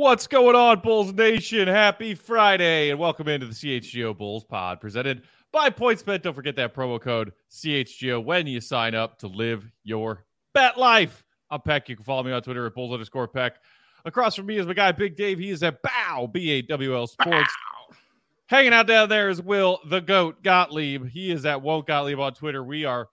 What's going on, Bulls Nation? Happy Friday, and welcome into the CHGO Bulls Pod, presented by PointsBet. Don't forget that promo code CHGO when you sign up to live your bet life. I'm Peck. You can follow me on Twitter at Bulls_Peck. Across from me is my guy, Big Dave. He is at BAW, B-A-W-L Sports. Bow. Hanging out down there is Will, the GOAT, Gottlieb. He is at Won't Gottlieb on Twitter. We are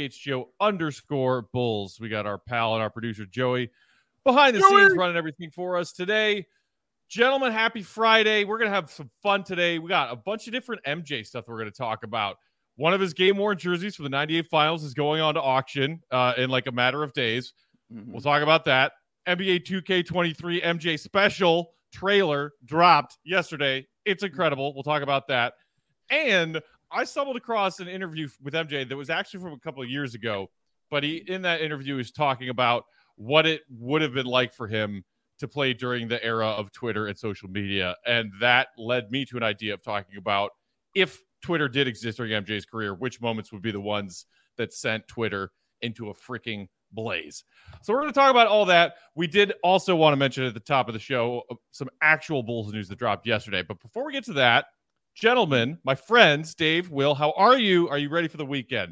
CHGO_Bulls. We got our pal and our producer, Joey, behind the scenes running everything for us today. Gentlemen, happy Friday. We're going to have some fun today. We got a bunch of different MJ stuff we're going to talk about. One of his game-worn jerseys for the 98 finals is going on to auction in like a matter of days. Mm-hmm. We'll talk about that. NBA 2K23 MJ special trailer dropped yesterday. It's incredible. We'll talk about that. And I stumbled across an interview with MJ that was actually from a couple of years ago, but he, in that interview, is talking about what it would have been like for him to play during the era of Twitter and social media. And that led me to an idea of talking about, if Twitter did exist during MJ's career, which moments would be the ones that sent Twitter into a freaking blaze. So we're going to talk about all that. We did also want to mention at the top of the show some actual Bulls news that dropped yesterday. But before we get to that, gentlemen, my friends, Dave, Will, how are you? Are you ready for the weekend?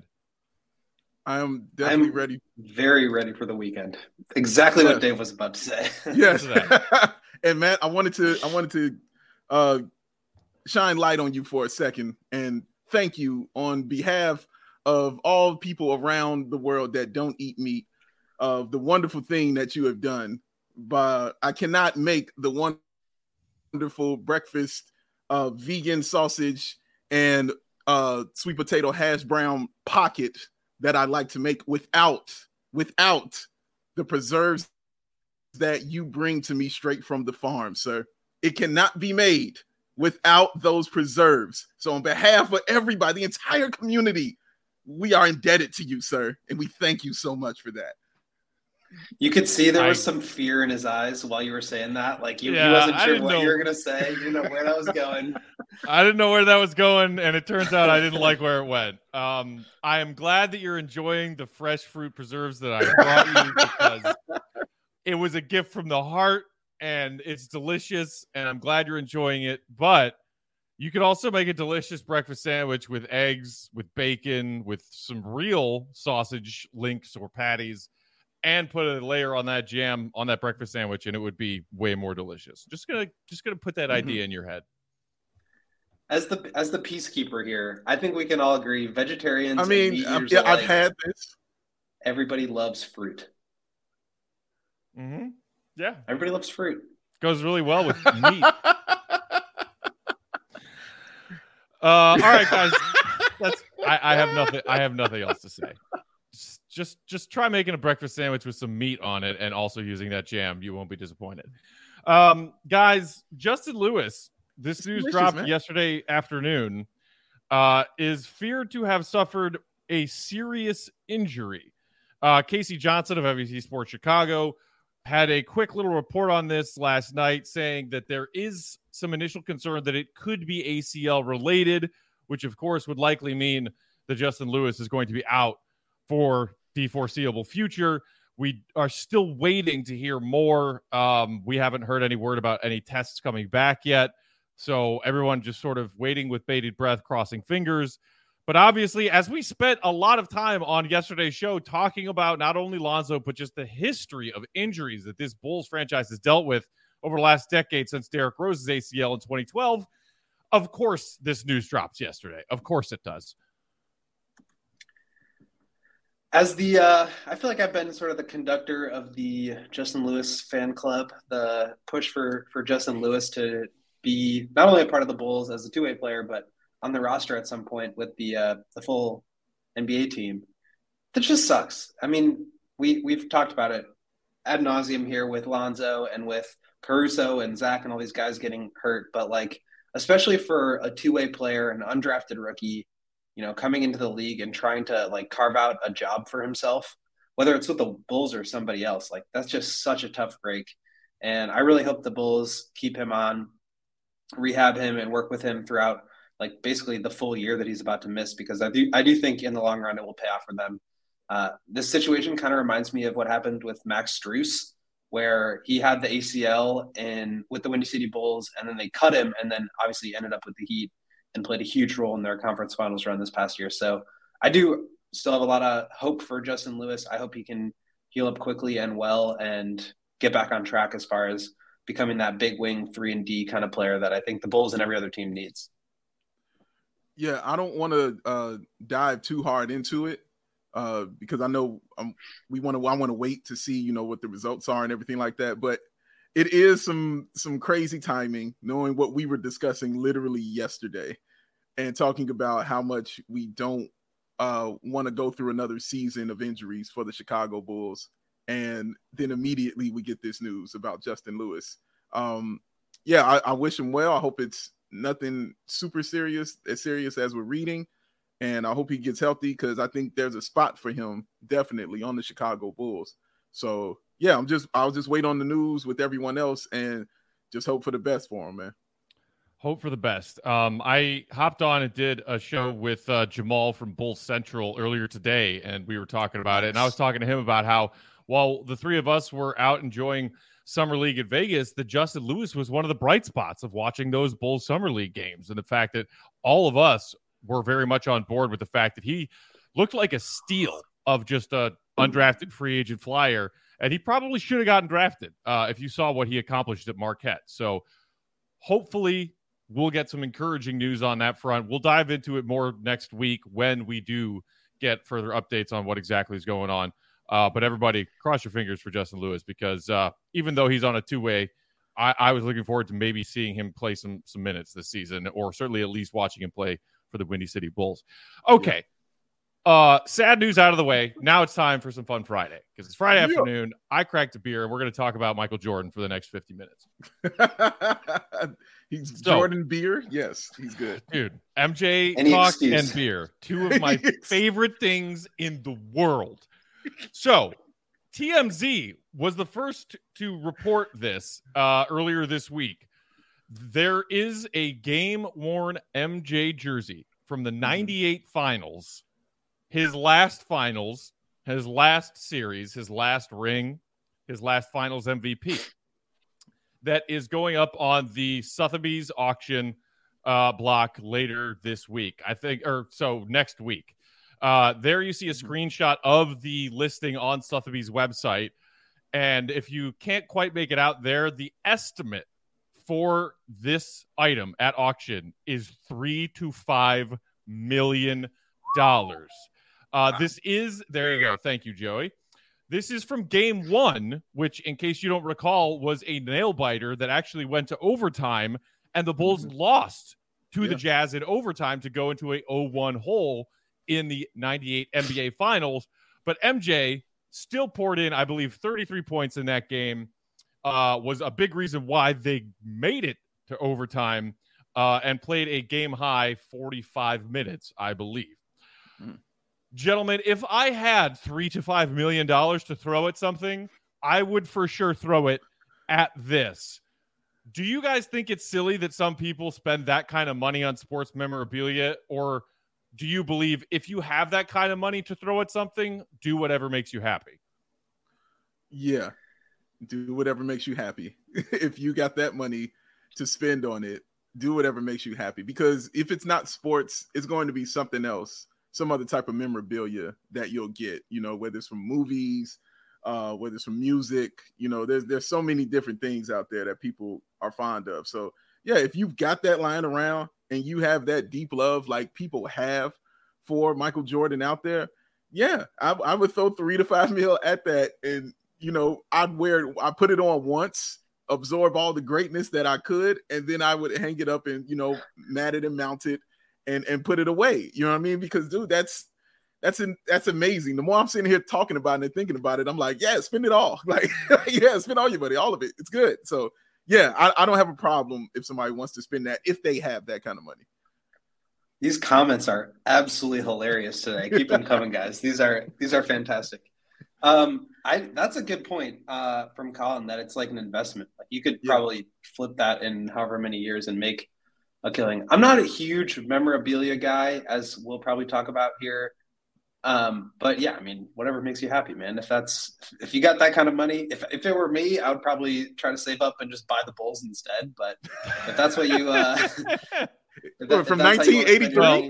I'm definitely ready. Very ready for the weekend. Exactly what Dave was about to say. Yes. And Matt, I wanted to shine light on you for a second and thank you on behalf of all people around the world that don't eat meat, of the wonderful thing that you have done. But I cannot make the wonderful breakfast vegan sausage and sweet potato hash brown pocket that I like to make without the preserves that you bring to me straight from the farm, sir. It cannot be made without those preserves. So on behalf of everybody, the entire community, we are indebted to you, sir. And we thank you so much for that. You could see there was some fear in his eyes while you were saying that. Like he wasn't sure what you were going to say. You didn't know where that was going. I didn't know where that was going, and it turns out I didn't like where it went. I am glad that you're enjoying the fresh fruit preserves that I brought you, because it was a gift from the heart, and it's delicious, and I'm glad you're enjoying it. But you could also make a delicious breakfast sandwich with eggs, with bacon, with some real sausage links or patties, and put a layer on that jam on that breakfast sandwich, and it would be way more delicious. Just gonna put that idea in your head. As the peacekeeper here, I think we can all agree, vegetarians. I mean, I've had this. Everybody loves fruit. Mm-hmm. Yeah, everybody loves fruit. Goes really well with meat. All right, guys. I have nothing else to say. Just try making a breakfast sandwich with some meat on it and also using that jam. You won't be disappointed. Guys, Justin Lewis, this news dropped yesterday afternoon, is feared to have suffered a serious injury. Casey Johnson of NBC Sports Chicago had a quick little report on this last night, saying that there is some initial concern that it could be ACL related, which of course would likely mean that Justin Lewis is going to be out for the foreseeable future. We are still waiting to hear more. We haven't heard any word about any tests coming back yet. So everyone just sort of waiting with bated breath, crossing fingers. But obviously, as we spent a lot of time on yesterday's show talking about not only Lonzo, but just the history of injuries that this Bulls franchise has dealt with over the last decade since Derrick Rose's ACL in 2012, of course this news drops yesterday. Of course it does. I feel like I've been sort of the conductor of the Justin Lewis fan club, the push for Justin Lewis to be not only a part of the Bulls as a two-way player, but on the roster at some point with the full NBA team. That just sucks. I mean, we've talked about it ad nauseum here with Lonzo and with Caruso and Zach and all these guys getting hurt, but like, especially for a two-way player, an undrafted rookie, coming into the league and trying to like carve out a job for himself, whether it's with the Bulls or somebody else, like that's just such a tough break. And I really hope the Bulls keep him on, rehab him, and work with him throughout like basically the full year that he's about to miss, because I do think in the long run it will pay off for them. This situation kind of reminds me of what happened with Max Strus where he had the ACL with the Windy City Bulls, and then they cut him, and then obviously ended up with the Heat and played a huge role in their conference finals run this past year. So I do still have a lot of hope for Justin Lewis. I hope he can heal up quickly and well and get back on track as far as becoming that big wing 3-and-D kind of player that I think the Bulls and every other team needs. Yeah, I don't want to dive too hard into it because I know I want to wait to see, what the results are and everything like that. But it is some crazy timing, knowing what we were discussing literally yesterday and talking about how much we don't want to go through another season of injuries for the Chicago Bulls. And then immediately we get this news about Justin Lewis. I wish him well. I hope it's nothing super serious, as serious as we're reading. And I hope he gets healthy because I think there's a spot for him definitely on the Chicago Bulls. So yeah, I'll just wait on the news with everyone else and just hope for the best for him, man. Hope for the best. I hopped on and did a show with Jamal from Bulls Central earlier today, and we were talking about it. And I was talking to him about how while the three of us were out enjoying Summer League at Vegas, that Justin Lewis was one of the bright spots of watching those Bulls Summer League games. And the fact that all of us were very much on board with the fact that he looked like a steal of just a undrafted free agent flyer. And he probably should have gotten drafted if you saw what he accomplished at Marquette. So hopefully we'll get some encouraging news on that front. We'll dive into it more next week when we do get further updates on what exactly is going on. But everybody, cross your fingers for Justin Lewis because even though he's on a two-way, I was looking forward to maybe seeing him play some minutes this season, or certainly at least watching him play for the Windy City Bulls. Okay. Sad news out of the way. Now it's time for some Fun Friday because it's Friday afternoon. I cracked a beer and we're going to talk about Michael Jordan for the next 50 minutes. Jordan beer. Yes, he's good. Dude, MJ talk and beer. Two of my favorite things in the world. So TMZ was the first to report this earlier this week. There is a game-worn MJ jersey from the 98 finals. His last finals, his last series, his last ring, his last finals MVP that is going up on the Sotheby's auction block later this week, I think, or so next week. There you see a screenshot of the listing on Sotheby's website. And if you can't quite make it out there, the estimate for this item at auction is $3 to $5 million. This is, there you go. Thank you, Joey. This is from game one, which, in case you don't recall, was a nail biter that actually went to overtime, and the Bulls lost to the Jazz in overtime to go into a 0-1 hole in the 98 NBA Finals. But MJ still poured in, I believe, 33 points in that game, was a big reason why they made it to overtime and played a game-high 45 minutes, I believe. Gentlemen, if I had $3 to $5 million to throw at something, I would for sure throw it at this. Do you guys think it's silly that some people spend that kind of money on sports memorabilia? Or do you believe if you have that kind of money to throw at something, do whatever makes you happy? Yeah, do whatever makes you happy. If you got that money to spend on it, do whatever makes you happy. Because if it's not sports, it's going to be something else. Some other type of memorabilia that you'll get, whether it's from movies, whether it's from music, there's so many different things out there that people are fond of. So yeah, if you've got that lying around and you have that deep love like people have for Michael Jordan out there, yeah, I would throw $3 to $5 million at that. And, I put it on once, absorb all the greatness that I could, and then I would hang it up and, mat it and mount it. And put it away. You know what I mean? Because dude, that's amazing. The more I'm sitting here talking about it and thinking about it, I'm like, yeah, spend it all. Like, yeah, spend all your money, all of it. It's good. So yeah, I don't have a problem if somebody wants to spend that, if they have that kind of money. These comments are absolutely hilarious today. Keep them coming, guys. These are fantastic. That's a good point from Colin, that it's like an investment. Like you could probably flip that in however many years and make a killing. I'm not a huge memorabilia guy, as we'll probably talk about here But yeah, I mean, whatever makes you happy, man. If you got that kind of money, if it were me, I would probably try to save up and just buy the Bulls instead. But if that's what you From 1983. Well,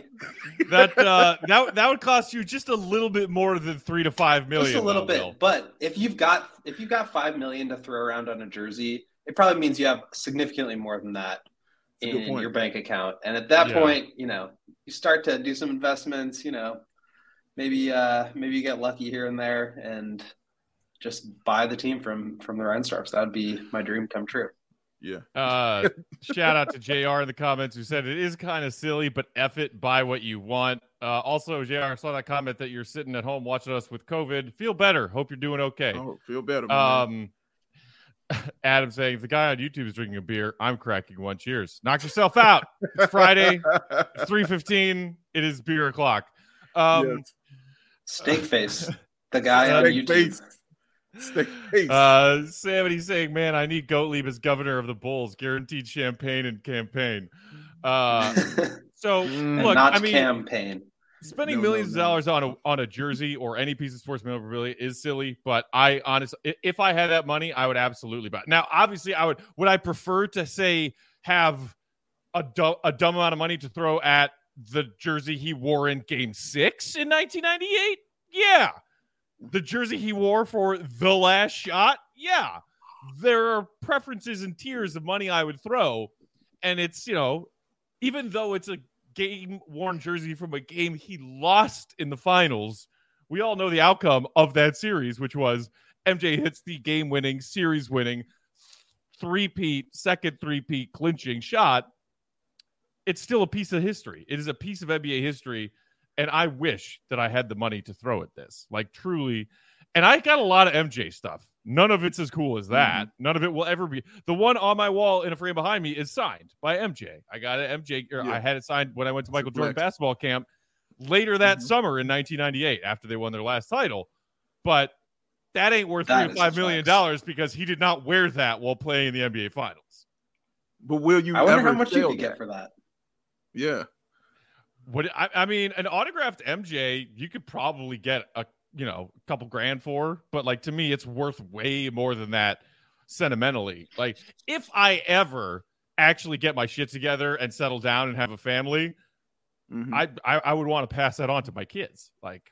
that would cost you just a little bit more than $3 to $5 million. Just a little bit. Will. But if you've got $5 million to throw around on a jersey, it probably means you have significantly more than that in your bank account. And at that point, you start to do some investments. Maybe you get lucky here and there and just buy the team from the Reinsdorfs. That would be my dream come true. Yeah. Shout out to JR in the comments who said it is kind of silly, but F it, buy what you want. Also, JR, I saw that comment that you're sitting at home watching us with COVID. Feel better. Hope you're doing okay. Oh, feel better, man. Adam saying, if the guy on YouTube is drinking a beer, I'm cracking one. Cheers. Knock yourself out. It's Friday. It's 3:15. It is beer o'clock. Yes. Steak face. The guy on YouTube. Steak face. Somebody's saying, man, I need Gottlieb as governor of the Bulls. Guaranteed champagne and campaign. So, look, not campaign. Spending millions of dollars on a jersey or any piece of sports memorabilia is silly, but I honestly, if I had that money, I would absolutely buy it. Now, obviously, would I prefer to say have a dumb amount of money to throw at the jersey he wore in Game 6 in 1998? Yeah. The jersey he wore for The Last Shot? Yeah. There are preferences and tiers of money I would throw, and it's, even though it's a game-worn jersey from a game he lost in the finals, we all know the outcome of that series, which was MJ hits the game-winning, series-winning, second three-peat clinching shot. It's still a piece of history. It is a piece of NBA history, and I wish that I had the money to throw at this. Like, truly. And I got a lot of MJ stuff. None of it's as cool as that. None of it will ever be. The one on my wall in a frame behind me is signed by MJ. I got it MJ. I had it signed when I went to Michael Jordan basketball camp later that summer in 1998 after they won their last title. But that ain't worth $3 to $5 million because he did not wear that while playing in the NBA Finals. But will you? I wonder how much you could get for that. Yeah. What I mean, an autographed MJ, you could probably get a couple grand for, but like, to me, it's worth way more than that sentimentally. Like, if I ever actually get my shit together and settle down and have a family, I would want to pass that on to my kids. Like,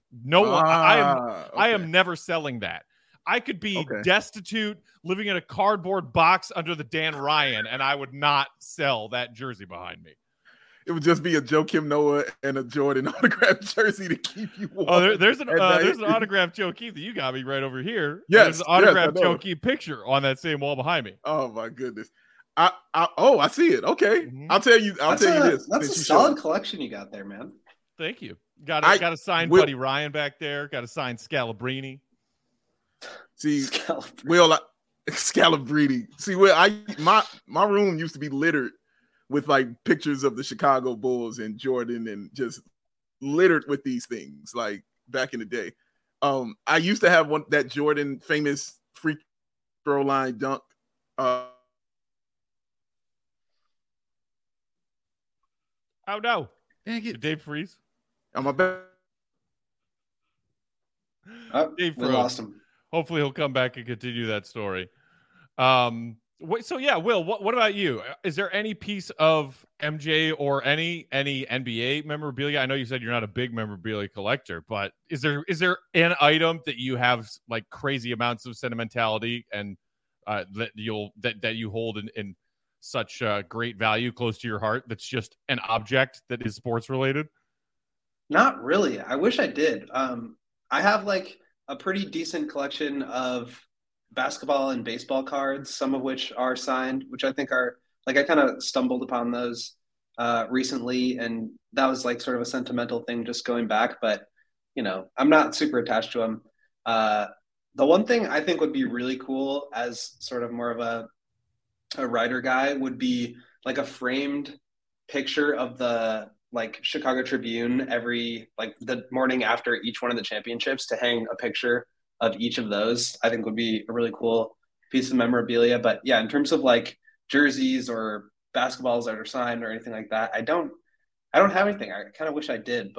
I am never selling that. I could be destitute, living in a cardboard box under the Dan Ryan, and I would not sell that jersey behind me. It would just be a Joakim Noah and a Jordan autographed jersey to keep you warm. Oh, there's an autographed Joakim that you got me right over here. Yes, there's an autographed Joakim picture on that same wall behind me. Oh my goodness! I see it. Okay, I'll tell you this. That's a solid collection you got there, man. Thank you. Got a signed Buddy Ryan back there. Got a signed Scalabrine. See, Scalabrine. See, my room used to be littered with like pictures of the Chicago Bulls and Jordan, and just littered with these things like back in the day. I used to have that Jordan famous free throw line dunk. Oh no. Dang it. Dave Freeze. Am I back? Dave we lost him. Hopefully he'll come back and continue that story. So yeah, Will, what about you? Is there any piece of MJ or any NBA memorabilia? I know you said you're not a big memorabilia collector, but is there an item that you have like crazy amounts of sentimentality and that you hold in such great value close to your heart? That's just an object that is sports related. Not really. I wish I did. I have like a pretty decent collection of basketball and baseball cards, some of which are signed, which I think are like, I kind of stumbled upon those recently, and that was like sort of a sentimental thing just going back, but I'm not super attached to them. The one thing I think would be really cool as sort of more of a writer guy would be like a framed picture of the like Chicago Tribune every like the morning after each one of the championships, to hang a picture of each of those. I think would be a really cool piece of memorabilia. But yeah, in terms of like jerseys or basketballs that are signed or anything like that, I don't have anything. I kind of wish I did, but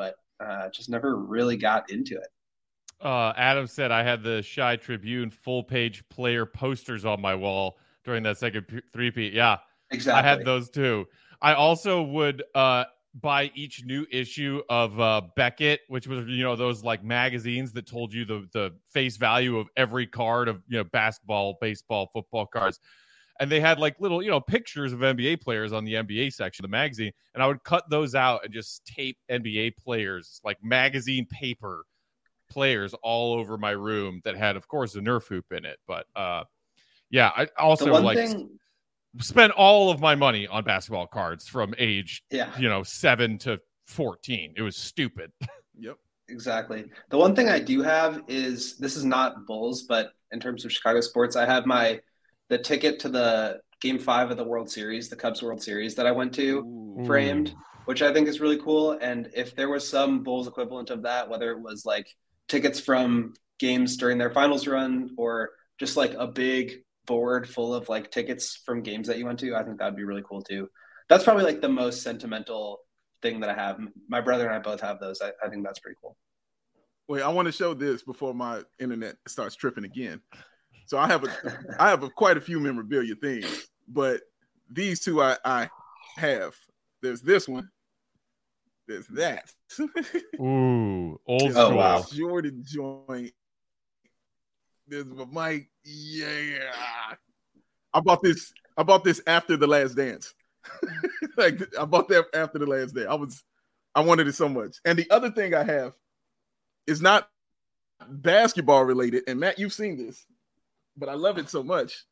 just never really got into it. Adam said I had the Shy Tribune full-page player posters on my wall during that second three-peat. Yeah, Exactly. I had those too. I also would buy each new issue of Beckett, which was, those like magazines that told you the face value of every card of, basketball, baseball, football cards. And they had like little, pictures of NBA players on the NBA section of the magazine. And I would cut those out and just tape NBA players, like magazine paper players, all over my room that had, of course, a Nerf hoop in it. But yeah, I also spent all of my money on basketball cards from age 7 to 14. It was stupid. Yep, exactly. The one thing I do have is, this is not Bulls, but in terms of Chicago sports, I have the ticket to the Game 5 of the World Series, the Cubs World Series that I went to, framed, which I think is really cool. And if there was some Bulls equivalent of that, whether it was like tickets from games during their finals run or just like a big board full of like tickets from games that you went to, I think that'd be really cool too. That's probably like the most sentimental thing that I have. My brother and I both have those. I think that's pretty cool. Wait, I want to show this before my internet starts tripping again. So I have quite a few memorabilia things, but these two I have. There's this one. There's that. Ooh, old school. Wow. Jordan joint. There's my mic. Yeah. I bought this after The Last Dance. Like, I bought that after The Last Dance. I wanted it so much. And the other thing I have is not basketball related. And Matt, you've seen this, but I love it so much.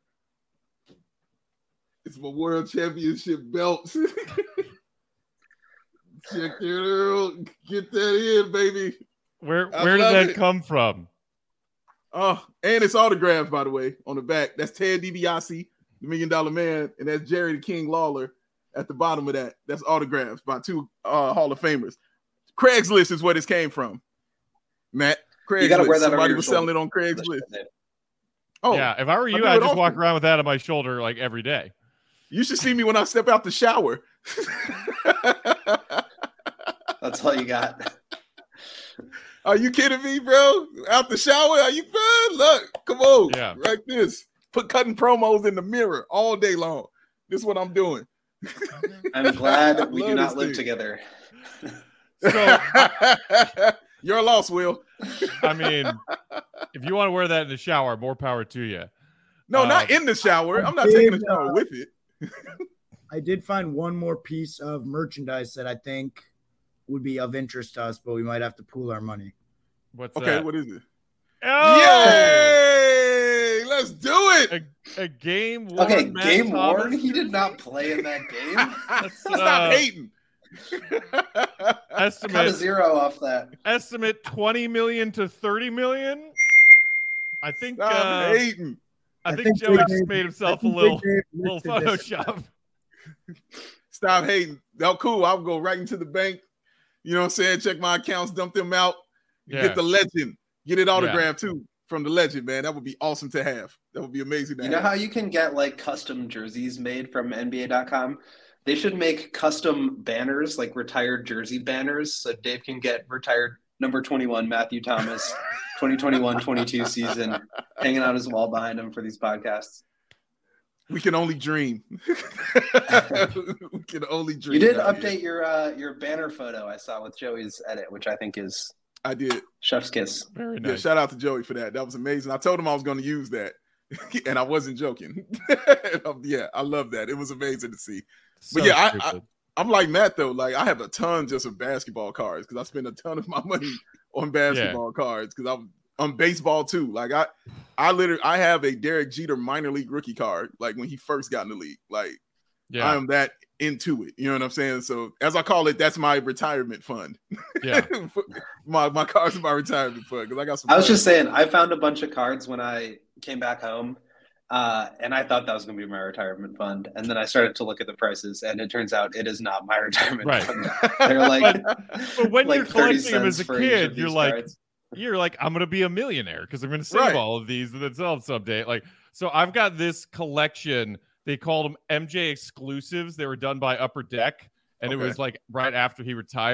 It's my world championship belt. Check it out. Get that in, baby. Where did that come from? Oh, and it's autographed, by the way, on the back. That's Ted DiBiase, the $1 Million Man, and that's Jerry the King Lawler at the bottom of that. That's autographs by two Hall of Famers. Craigslist is where this came from, Matt. Craigslist. You gotta wear that. Somebody was selling it on Craigslist. Oh, yeah. If I were you, I'd just walk around with that on my shoulder like every day. You should see me when I step out the shower. That's all you got. Are you kidding me, bro? Out the shower? Are you fun? Look, come on. Yeah. Like this. Put cutting promos in the mirror all day long. This is what I'm doing. I'm glad we do not live together. So you're lost, Will. I mean, if you want to wear that in the shower, more power to you. No, not in the shower. I'm not taking a shower with it. I did find one more piece of merchandise that I think would be of interest to us, but we might have to pool our money. What's that? Okay, what is it? Oh! Yay! Let's do it. A game worn. Okay, Matt game Thomas. worn. He did not play in that game. Stop hating. Estimate Cut a zero off that. Estimate 20 million to 30 million. I think. Stop hating. I think Joey just made himself a little Photoshop. Stop hating. Oh, cool. I'll go right into the bank. You know what I'm saying? Check my accounts, dump them out. Get the legend. Get it autographed too from the legend, man. That would be awesome to have. That would be amazing to have. You know how you can get like custom jerseys made from NBA.com? They should make custom banners, like retired jersey banners, so Dave can get retired number 21 Matthew Thomas 2021-22 season hanging on his wall behind him for these podcasts. We can only dream. We can only dream. You did update your banner photo I saw with Joey's edit, which I think is I did. Chef's kiss. Very nice. Yeah, shout out to Joey for that. That was amazing. I told him I was going to use that, and I wasn't joking. Yeah, I love that. It was amazing to see. But yeah, I'm like Matt though. Like I have a ton just of basketball cards because I spend a ton of my money on basketball cards because I'm on baseball too. Like I have a Derek Jeter minor league rookie card. Like when he first got in the league. Like I am that into it. You know what I'm saying? So as I call it, that's my retirement fund. Yeah, my cards are my retirement fund because I got some. I was just saying, I found a bunch of cards when I came back home. And I thought that was going to be my retirement fund. And then I started to look at the prices, and it turns out it is not my retirement fund. They're like, but when you're collecting them as a kid, you're like, I'm going to be a millionaire because I'm going to save all of these and then sell them someday. Like, so I've got this collection. They called them MJ exclusives. They were done by Upper Deck, and it was like right after he retired.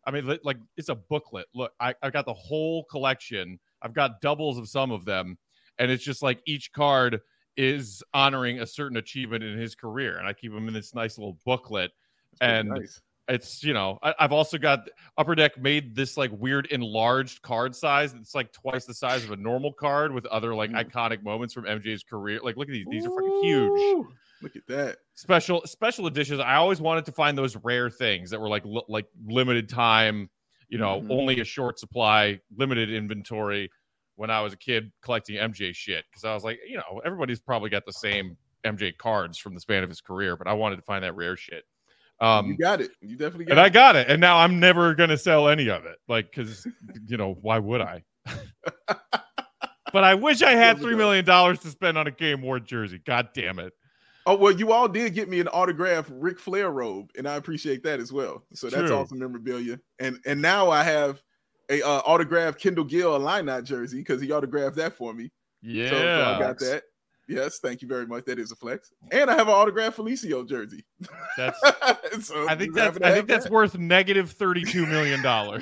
I mean, like it's a booklet. Look, I've got the whole collection. I've got doubles of some of them, and it's just like each card is honoring a certain achievement in his career, and I keep them in this nice little booklet. And nice. It's, I've also got Upper Deck made this like weird enlarged card size. It's like twice the size of a normal card with other like iconic moments from MJ's career. Like, look at these. These are fucking huge. Look at that. Special editions. I always wanted to find those rare things that were like limited time, only a short supply, limited inventory when I was a kid collecting MJ shit. Because I was like, everybody's probably got the same MJ cards from the span of his career, but I wanted to find that rare shit. You got it. You definitely got it. And I got it. And now I'm never going to sell any of it. Like, because, why would I? But I wish I had $3 million to spend on a Game Ward jersey. God damn it. Oh, well, you all did get me an autographed Ric Flair robe, and I appreciate that as well. So that's awesome memorabilia. And now I have a autographed Kendall Gill Illini jersey because he autographed that for me. Yeah. So I got that. Yes, thank you very much. That is a flex. And I have an autographed Felicio jersey. That's so I think that's worth negative $32 million.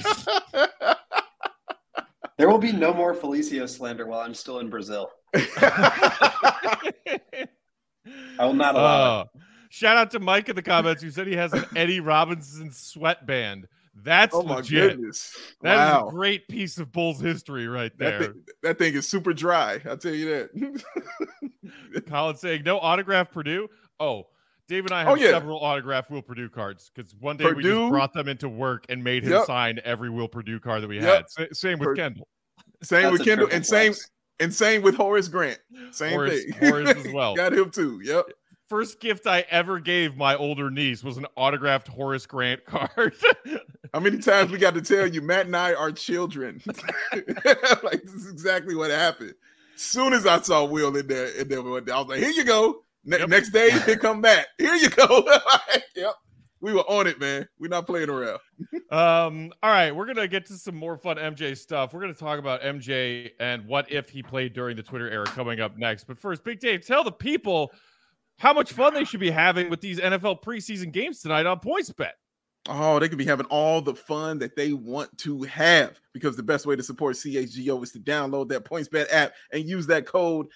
There will be no more Felicio slander while I'm still in Brazil. I will not allow it. Shout out to Mike in the comments who said he has an Eddie Robinson sweatband. That's legit. My goodness. That is a great piece of Bulls history right there. That thing is super dry. I'll tell you that. Colin saying no autograph Purdue. Oh, Dave and I have several autographed Will Purdue cards because one day we just brought them into work and made him sign every Will Purdue card that we had. Same with Kendall. Same with Kendall and same with Horace Grant. Same thing. Horace as well. Got him too. Yep. First gift I ever gave my older niece was an autographed Horace Grant card. How many times we got to tell you, Matt and I are children? Like, this is exactly what happened. As soon as I saw Will in there, I was like, here you go. Next day, here come Matt. Here you go. Yep. We were on it, man. We're not playing around. All right. We're going to get to some more fun MJ stuff. We're going to talk about MJ and what if he played during the Twitter era coming up next. But first, Big Dave, tell the people how much fun they should be having with these NFL preseason games tonight on PointsBet. Oh, they could be having all the fun that they want to have because the best way to support CHGO is to download that PointsBet app and use that code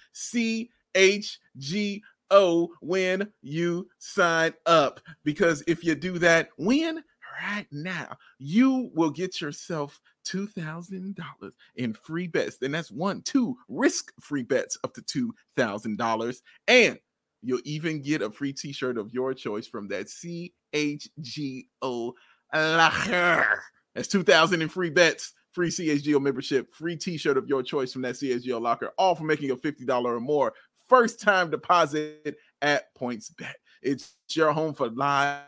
CHGO when you sign up. Because if you do that, right now, you will get yourself $2,000 in free bets. And that's 2 risk-free bets up to $2,000. And you'll even get a free t-shirt of your choice from that CHGO locker. That's $2,000 in free bets, free CHGO membership, free t-shirt of your choice from that CHGO locker, all for making a $50 or more first-time deposit at PointsBet. It's your home for live.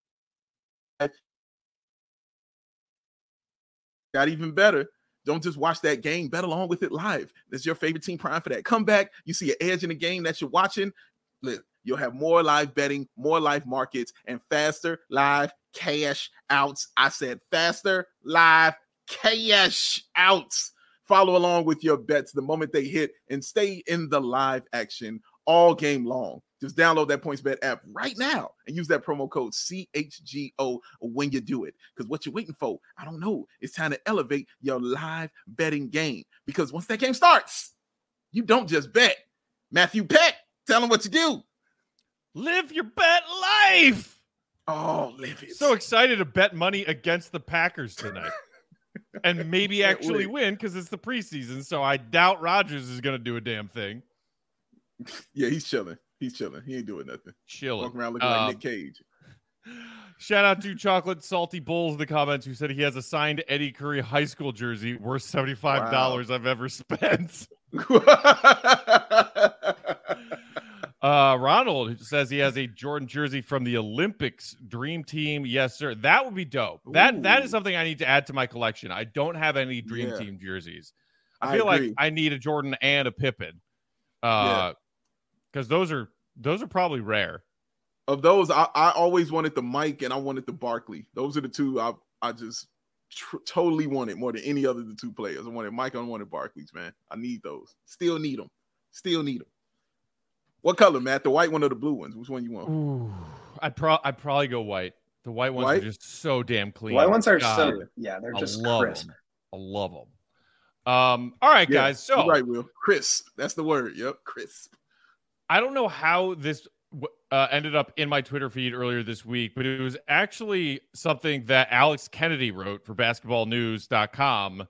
Got even better. Don't just watch that game, bet along with it live. That's your favorite team prime for that. Come back, you see an edge in the game that you're watching. You'll have more live betting, more live markets, and faster live cash outs. I said faster live cash outs. Follow along with your bets the moment they hit and stay in the live action all game long. Just download that PointsBet app right now and use that promo code CHGO when you do it. Because what you're waiting for, I don't know. It's time to elevate your live betting game. Because once that game starts, you don't just bet. Matthew Peck, tell them what you do. Live your bet life. Oh, live it. So excited to bet money against the Packers tonight. And maybe actually win because it's the preseason. So I doubt Rodgers is going to do a damn thing. Yeah, he's chilling. He ain't doing nothing. Chilling. Walking around looking like Nick Cage. Shout out to Chocolate Salty Bulls in the comments who said he has a signed Eddie Curry high school jersey worth $75 I've ever spent. Ronald says he has a Jordan jersey from the Olympics Dream Team. Yes, sir. That would be dope. That is something I need to add to my collection. I don't have any Dream Team jerseys. I feel like I need a Jordan and a Pippen. Because those are probably rare. Of those, I always wanted the Mike and I wanted the Barkley. Those are the two I just totally wanted more than any other of the two players. I wanted Mike, I wanted Barkley's, man. I need those. Still need them. What color, Matt? The white one or the blue ones? Which one you want? Ooh, I'd probably go white. The white ones are just so damn clean. The white ones are God, they're just love crisp. them. I love them. All right, guys. So you're right, Will. Crisp. That's the word. Yep, crisp. I don't know how this ended up in my Twitter feed earlier this week, but it was actually something that Alex Kennedy wrote for basketballnews.com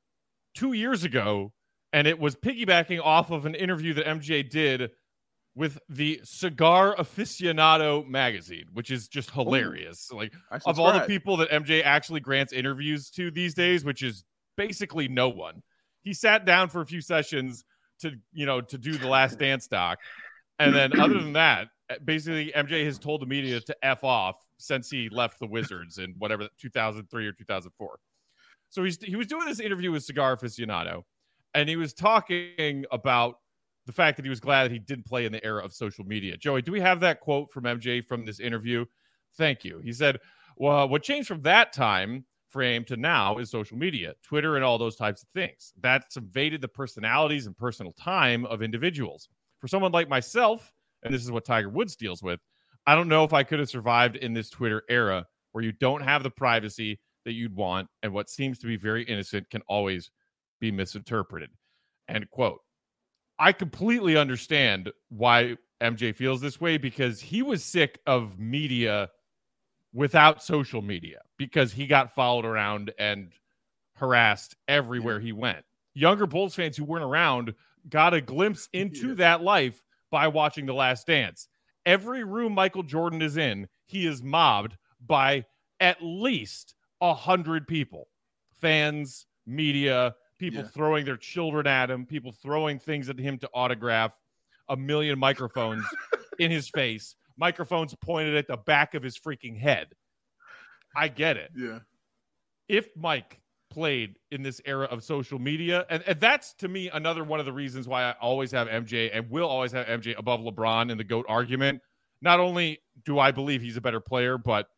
2 years ago, and it was piggybacking off of an interview that MJ did with the Cigar Aficionado magazine, which is just hilarious. Like, of all the people that MJ actually grants interviews to these days, which is basically no one, he sat down for a few sessions to do the Last Dance doc. And then other than that, basically MJ has told the media to F off since he left the Wizards in whatever, 2003 or 2004. So he was doing this interview with Cigar Aficionado, and he was talking about the fact that he was glad that he didn't play in the era of social media. Joey, do we have that quote from MJ from this interview? Thank you. He said, well, what changed from that time frame to now is social media, Twitter, and all those types of things. That's invaded the personalities and personal time of individuals. For someone like myself, and this is what Tiger Woods deals with, I don't know if I could have survived in this Twitter era where you don't have the privacy that you'd want, and what seems to be very innocent can always be misinterpreted. End quote. I completely understand why MJ feels this way, because he was sick of media without social media, because he got followed around and harassed everywhere he went. Younger Bulls fans who weren't around got a glimpse into that life by watching The Last Dance. Every room Michael Jordan is in, he is mobbed by at least 100 people. Fans, media, people throwing their children at him, people throwing things at him to autograph, a million microphones in his face, microphones pointed at the back of his freaking head. I get it. Yeah. If Mike played in this era of social media, and that's, to me, another one of the reasons why I always have MJ and will always have MJ above LeBron in the GOAT argument. Not only do I believe he's a better player, but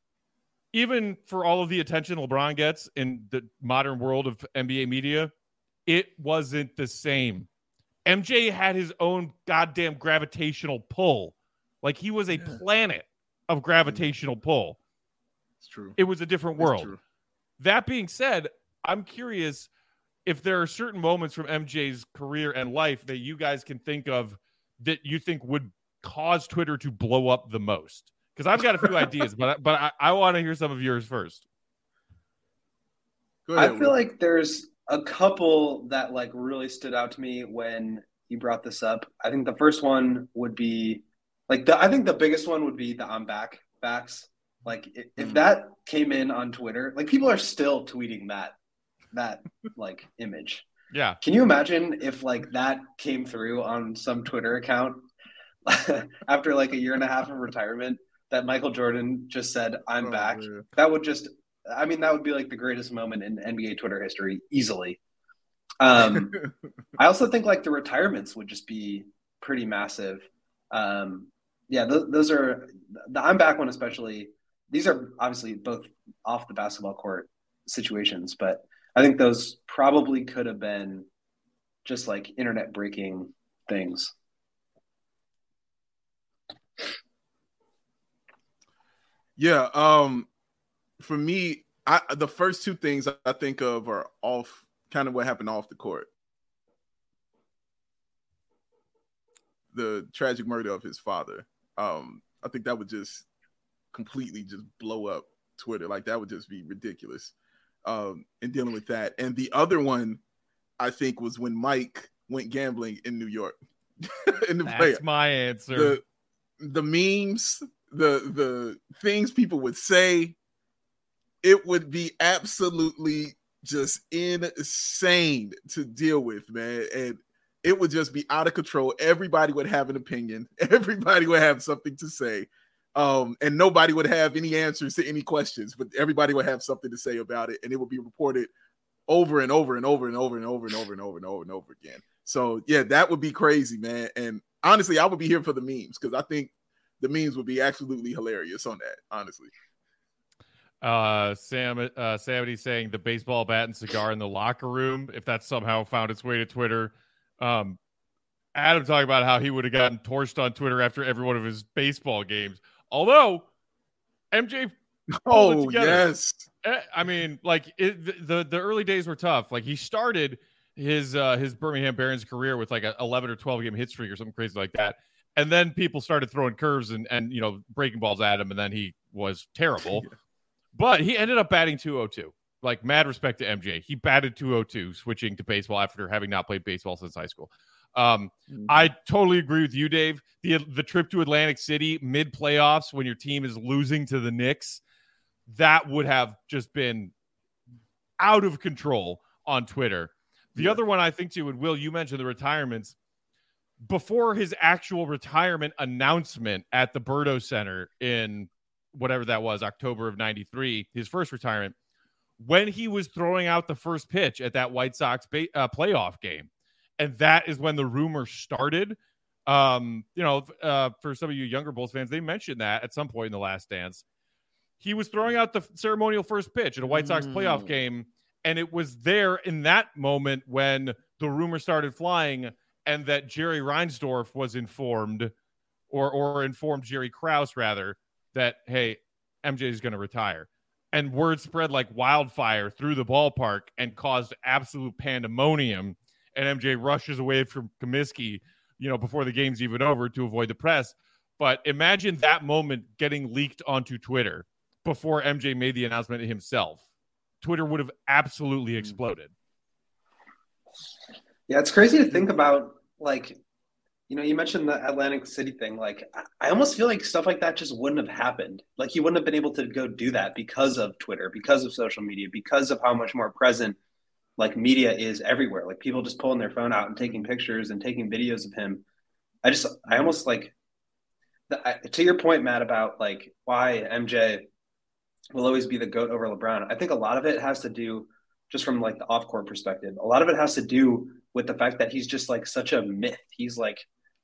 even for all of the attention LeBron gets in the modern world of NBA media, it wasn't the same. MJ had his own goddamn gravitational pull. Like, he was a planet of gravitational pull. It's true. It was a different world. That being said, I'm curious if there are certain moments from MJ's career and life that you guys can think of that you think would cause Twitter to blow up the most. Because I've got a few ideas, but I want to hear some of yours first. Go ahead, I feel like there's a couple that like really stood out to me when you brought this up. I think the first one would be I think the biggest one would be the I'm back facts. Like if that came in on Twitter, like people are still tweeting that like image. Yeah. Can you imagine if like that came through on some Twitter account after like a year and a half of retirement, that Michael Jordan just said, I'm back. Man. That would be like the greatest moment in NBA Twitter history easily. I also think like the retirements would just be pretty massive. Those are the I'm back one, especially. These are obviously both off the basketball court situations, but I think those probably could have been just like internet breaking things. Yeah. For me, the first two things I think of are off kind of what happened off the court. The tragic murder of his father. I think that would just completely just blow up Twitter. Like that would just be ridiculous. And dealing with that. And the other one, I think, was when Mike went gambling in New York. That's my answer. The memes, the things people would say, it would be absolutely just insane to deal with, man. And it would just be out of control. Everybody would have an opinion. Everybody would have something to say. And nobody would have any answers to any questions, but everybody would have something to say about it. And it would be reported over and over and over and over and over and over and over and over and over again. So yeah, that would be crazy, man. And honestly, I would be here for the memes because I think the memes would be absolutely hilarious on that, honestly. Sammy saying the baseball bat and cigar in the locker room, if that somehow found its way to Twitter. Adam talking about how he would have gotten torched on Twitter after every one of his baseball games. Although MJ. Oh together. yes. I mean, like the early days were tough. Like he started his Birmingham Barons career with like a 11 or 12 game hit streak or something crazy like that, and then people started throwing curves and breaking balls at him, and then he was terrible. Yeah. But he ended up batting .202. Like, mad respect to MJ. He batted .202, switching to baseball after having not played baseball since high school. I totally agree with you, Dave. The trip to Atlantic City mid playoffs when your team is losing to the Knicks, that would have just been out of control on Twitter. The other one I think too, and Will, you mentioned the retirements. Before his actual retirement announcement at the Berto Center in whatever that was, October of '93, his first retirement, when he was throwing out the first pitch at that White Sox playoff game. And that is when the rumor started. For some of you younger Bulls fans, they mentioned that at some point in the Last Dance. He was throwing out the ceremonial first pitch at a White Sox playoff game. And it was there in that moment when the rumor started flying and that Jerry Reinsdorf was informed or informed Jerry Krause rather that, hey, MJ is going to retire. And word spread like wildfire through the ballpark and caused absolute pandemonium. And MJ rushes away from Comiskey, before the game's even over to avoid the press. But imagine that moment getting leaked onto Twitter before MJ made the announcement himself. Twitter would have absolutely exploded. Yeah, it's crazy to think about, like, you mentioned the Atlantic City thing. Like, I almost feel like stuff like that just wouldn't have happened. Like, he wouldn't have been able to go do that because of Twitter, because of social media, because of how much more present, like, media is everywhere. Like, people just pulling their phone out and taking pictures and taking videos of him. I almost like, to your point, Matt, about like why MJ will always be the GOAT over LeBron. I think a lot of it has to do just from like the off-court perspective. A lot of it has to do with the fact that he's just like such a myth. He's like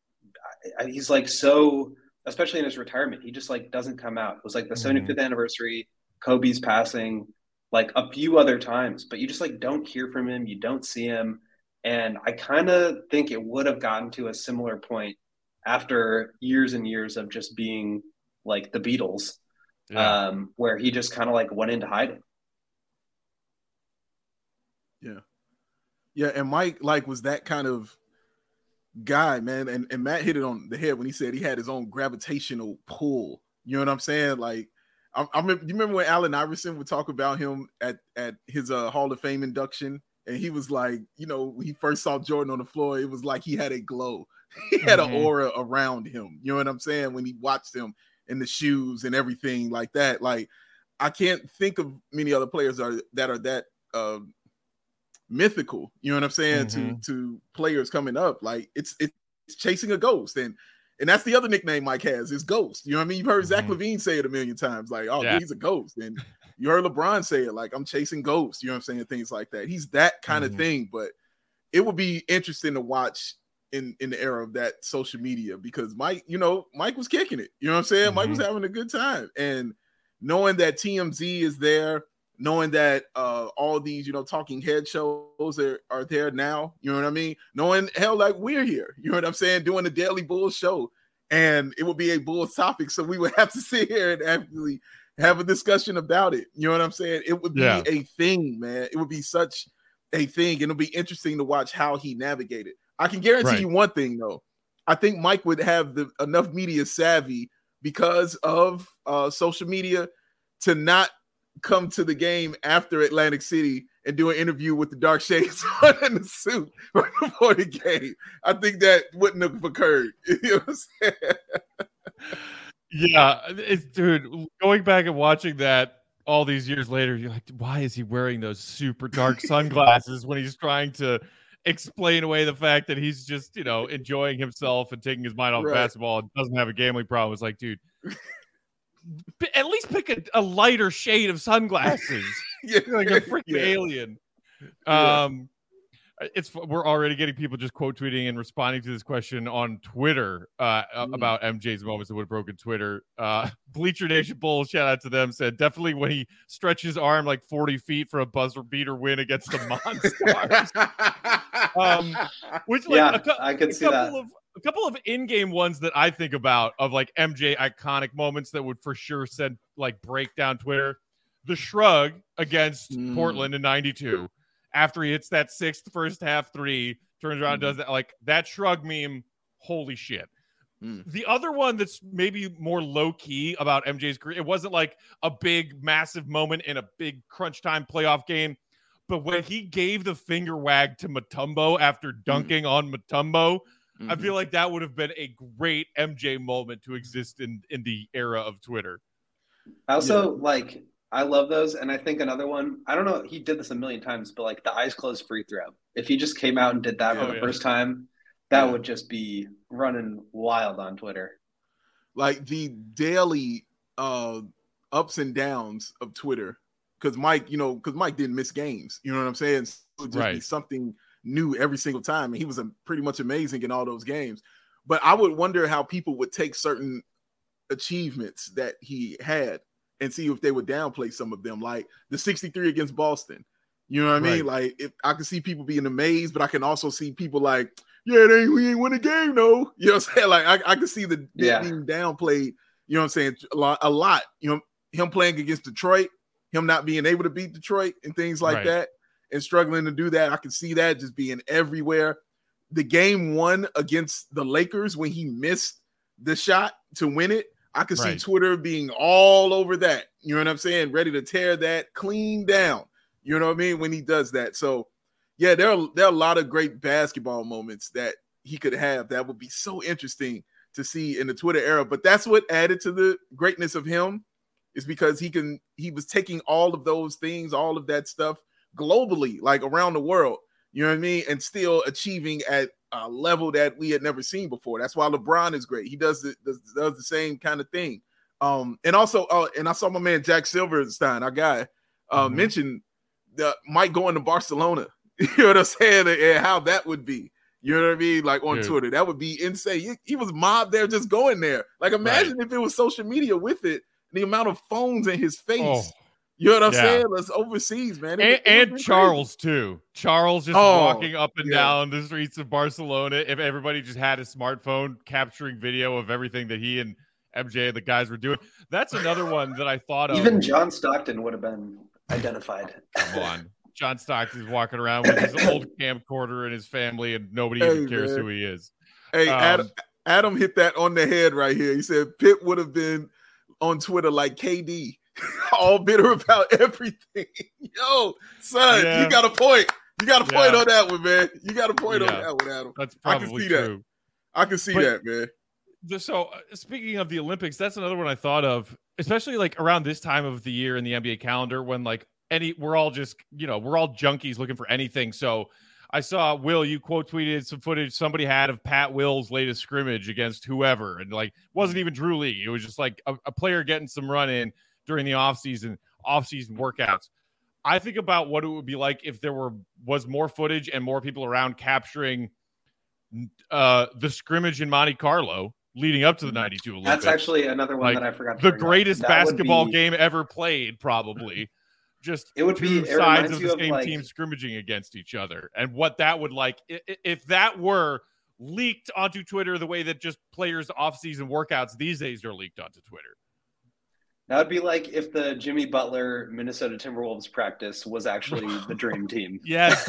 so, especially in his retirement, he just like doesn't come out. It was like the 75th anniversary, Kobe's passing, like a few other times, but you just like don't hear from him. You don't see him. And I kind of think it would have gotten to a similar point after years and years of just being like the Beatles, where he just kind of like went into hiding. Yeah. Yeah. And Mike like was that kind of guy, man. And Matt hit it on the head when he said he had his own gravitational pull. You know what I'm saying? Like, I remember, you remember when Allen Iverson would talk about him at his Hall of Fame induction? And he was like, when he first saw Jordan on the floor, it was like he had a glow. He had an aura around him. You know what I'm saying? When he watched him in the shoes and everything like that. Like, I can't think of many other players that are that mythical. You know what I'm saying? To players coming up. Like, it's chasing a ghost. And that's the other nickname Mike has, is Ghost. You know what I mean? You've heard Zach LaVine say it a million times, like, he's a ghost. And you heard LeBron say it, like, I'm chasing ghosts. You know what I'm saying? Things like that. He's that kind of thing. But it would be interesting to watch in the era of that social media, because Mike was kicking it. You know what I'm saying? Mike was having a good time. And knowing that TMZ is there, knowing that all these, talking head shows are there now, you know what I mean? Knowing, hell, like, we're here, you know what I'm saying, doing the Daily Bulls show, and it would be a Bulls topic, so we would have to sit here and actually have a discussion about it. You know what I'm saying? It would be a thing, man. It would be such a thing, and it'll be interesting to watch how he navigated. I can guarantee you one thing, though. I think Mike would have enough media savvy because of social media to not come to the game after Atlantic City and do an interview with the dark shades on in the suit right before the game. I think that wouldn't have occurred. You know what I'm saying? Yeah, dude, going back and watching that all these years later, you're like, why is he wearing those super dark sunglasses when he's trying to explain away the fact that he's just, enjoying himself and taking his mind off basketball and doesn't have a gambling problem? It's like, dude, at least pick a lighter shade of sunglasses. Like a freaking alien. We're already getting people just quote tweeting and responding to this question on Twitter about MJ's moments that would have broken Twitter. Bleacher Nation Bulls, shout out to them, said definitely when he stretched his arm like 40 feet for a buzzer beater win against the Monstars. Which, like, I could see that. A couple of in-game ones that I think about of like MJ iconic moments that would for sure send like break down Twitter. The shrug against Portland in 92 after he hits that sixth first half three, turns around and does that. Like that shrug meme, holy shit. The other one that's maybe more low-key about MJ's career, it wasn't like a big, massive moment in a big crunch time playoff game, but when he gave the finger wag to Mutombo after dunking on Mutombo, I feel like that would have been a great MJ moment to exist in the era of Twitter. I also I love those. And I think another one, I don't know, he did this a million times, but like the eyes closed free throw. If he just came out and did that for the first time, that would just be running wild on Twitter. Like the daily ups and downs of Twitter. Because Mike didn't miss games. You know what I'm saying? So it would just be something new every single time. And he was pretty much amazing in all those games. But I would wonder how people would take certain achievements that he had and see if they would downplay some of them. Like the 63 against Boston. You know what I mean? Like if I can see people being amazed, but I can also see people like, we ain't win a game, though. You know what I'm saying? Like I can see the being downplayed, you know what I'm saying? A lot. You know, him playing against Detroit, him not being able to beat Detroit and things like that and struggling to do that. I can see that just being everywhere. The game one against the Lakers when he missed the shot to win it, I could see Twitter being all over that. You know what I'm saying? Ready to tear that clean down. You know what I mean? When he does that. So, yeah, there are a lot of great basketball moments that he could have that would be so interesting to see in the Twitter era. But that's what added to the greatness of him is because he was taking all of those things, all of that stuff globally, like around the world, you know what I mean? And still achieving at a level that we had never seen before. That's why LeBron is great. He does the same kind of thing. And also, and I saw my man Jack Silverstein, our guy, mention Mike going to Barcelona. You know what I'm saying? And how that would be. You know what I mean? Like on Twitter. That would be insane. He was mobbed there just going there. Like imagine if it was social media with it, the amount of phones in his face. Oh. You know what I'm saying? That's overseas, man. And Charles, too. Charles just walking up and down the streets of Barcelona. If everybody just had a smartphone capturing video of everything that he and MJ and the guys were doing. That's another one that I thought of. Even John Stockton would have been identified. Come on. John Stockton's walking around with his old camcorder and his family, and nobody even cares who he is. Hey, Adam hit that on the head right here. He said Pitt would have been on Twitter like KD, all bitter about everything. Yo, son, you got a point. You got a point on that one, man. You got a point on that one, Adam. That's probably true. I can see that, man. So speaking of the Olympics, that's another one I thought of, especially like around this time of the year in the NBA calendar when like we're all just, we're all junkies looking for anything. So I saw, Will, you quote tweeted some footage somebody had of Pat Will's latest scrimmage against whoever. And like, wasn't even Drew League. It was just like a player getting some run in during the offseason workouts. I think about what it would be like if there was more footage and more people around capturing the scrimmage in Monte Carlo leading up to the 92 Olympics. That's actually another one that I forgot to the greatest basketball game ever played, probably. Just it would two sides of the same team scrimmaging against each other. And what that would like, if that were leaked onto Twitter the way that just players' off-season workouts these days are leaked onto Twitter. That would be like if the Jimmy Butler Minnesota Timberwolves practice was actually the dream team. Yes.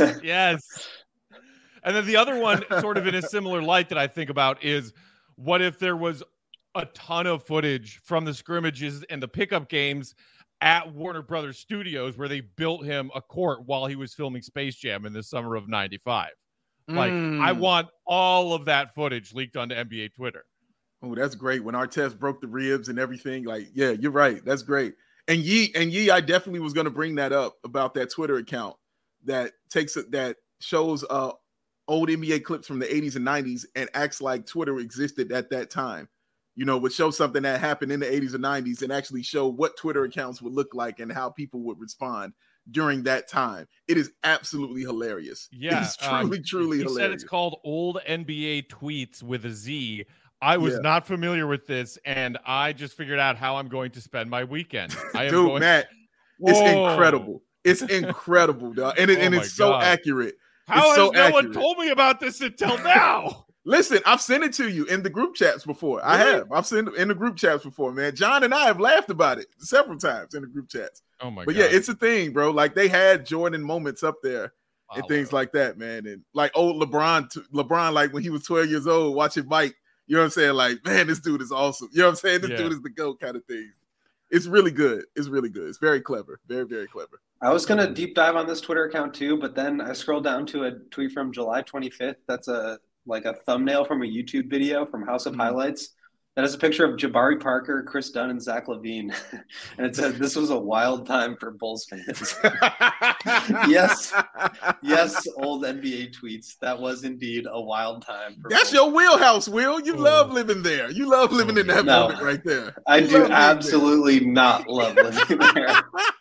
And then the other one, sort of in a similar light that I think about is, what if there was a ton of footage from the scrimmages and the pickup games at Warner Brothers Studios where they built him a court while he was filming Space Jam in the summer of 95. Like, I want all of that footage leaked onto NBA Twitter. Oh, that's great. When Artest broke the ribs and everything, like, yeah, you're right. That's great. And Yee, I definitely was going to bring that up about that Twitter account that shows old NBA clips from the 80s and 90s and acts like Twitter existed at that time. Would show something that happened in the 80s and 90s and actually show what Twitter accounts would look like and how people would respond during that time. It is absolutely hilarious. Yeah. It's truly hilarious. Said it's called Old NBA Tweets with a Z. I was not familiar with this, and I just figured out how I'm going to spend my weekend. Matt, it's incredible. It's incredible, dog. And it's so accurate. How has no one told me about this until now? Listen, I've sent it to you in the group chats before. Really? I have. I've sent it in the group chats before, man. John and I have laughed about it several times in the group chats. Oh my But god! yeah, it's a thing, bro. Like they had Jordan moments up there and things like that, man. And like old LeBron, like when he was 12 years old, watching Mike. You know what I'm saying? Like, man, this dude is awesome. You know what I'm saying? This dude is the GOAT kind of thing. It's really good. It's really good. It's very clever. Very, very clever. I was going to deep dive on this Twitter account too, but then I scrolled down to a tweet from July 25th. That's a thumbnail from a YouTube video from House of Highlights. That has a picture of Jabari Parker, Chris Dunn, and Zach LaVine. And it said, "This was a wild time for Bulls fans." Yes, old NBA tweets. That was indeed a wild time. That's your wheelhouse, Will. You love living there. You love living in that moment right there. I do absolutely not love living there.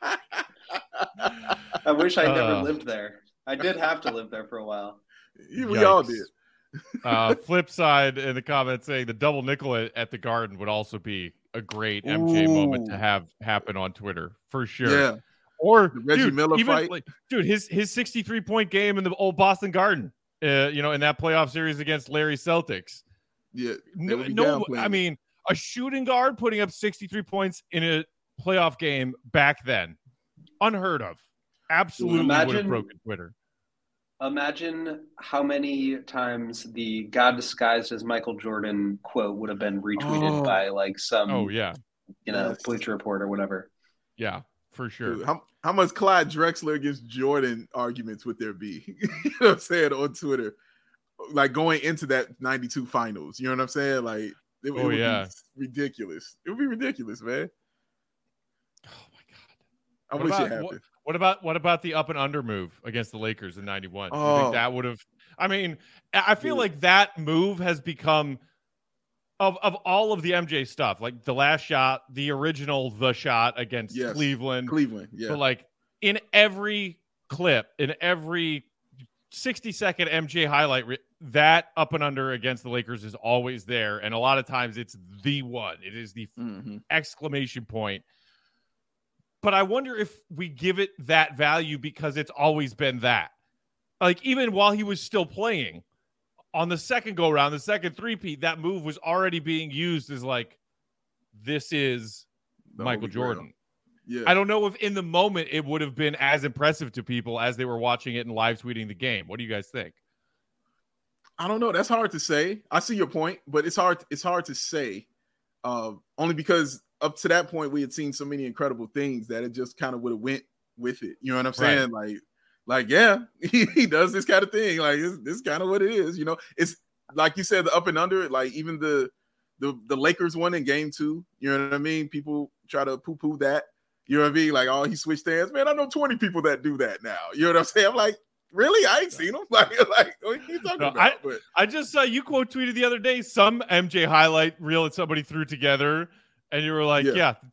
I wish I never lived there. I did have to live there for a while. We all did. Flip side in the comments saying the double nickel at the Garden would also be a great MJ moment to have happen on Twitter for sure. Yeah. Or the Reggie Miller fight. His 63-point game in the old Boston Garden, in that playoff series against Larry Celtics. Yeah. I mean, a shooting guard putting up 63 points in a playoff game back then, unheard of. Absolutely would have broken Twitter. Imagine how many times the "God disguised as Michael Jordan" quote would have been retweeted by like some, Bleacher Report or whatever. Yeah, for sure. Dude, how much Clyde Drexler against Jordan arguments would there be? You know what I'm saying, on Twitter, like going into that 92 finals. You know what I'm saying? Like, it would be ridiculous. It would be ridiculous, man. Oh my god! I wish it happened. What about the up and under move against the Lakers in 91? Do you think that would have? I mean, I feel like that move has become of all of the MJ stuff, like the last shot, the original, the shot against Cleveland. Yeah. But like in every clip, in every 60-second MJ highlight, that up and under against the Lakers is always there, and a lot of times it's the one. It is the exclamation point. But I wonder if we give it that value because it's always been that. Like, even while he was still playing, on the second go-around, the second three-peat, that move was already being used as like, this is Michael Jordan. Yeah. I don't know if in the moment it would have been as impressive to people as they were watching it and live tweeting the game. What do you guys think? I don't know. That's hard to say. I see your point, but it's hard to say. Only because up to that point, we had seen so many incredible things that it just kind of would have went with it. You know what I'm saying? Right. Like, yeah, he does this kind of thing. Like, this kind of what it is. You know, it's like you said, the up and under. Like even the Lakers won in Game 2. You know what I mean? People try to poo-poo that. You know what I mean? Like, oh, he switched hands. Man, I know 20 people that do that now. You know what I'm saying? I'm like, really? I ain't seen them. Like, what are you talking about? But I just saw you quote tweeted the other day some MJ highlight reel that somebody threw together. And you were like,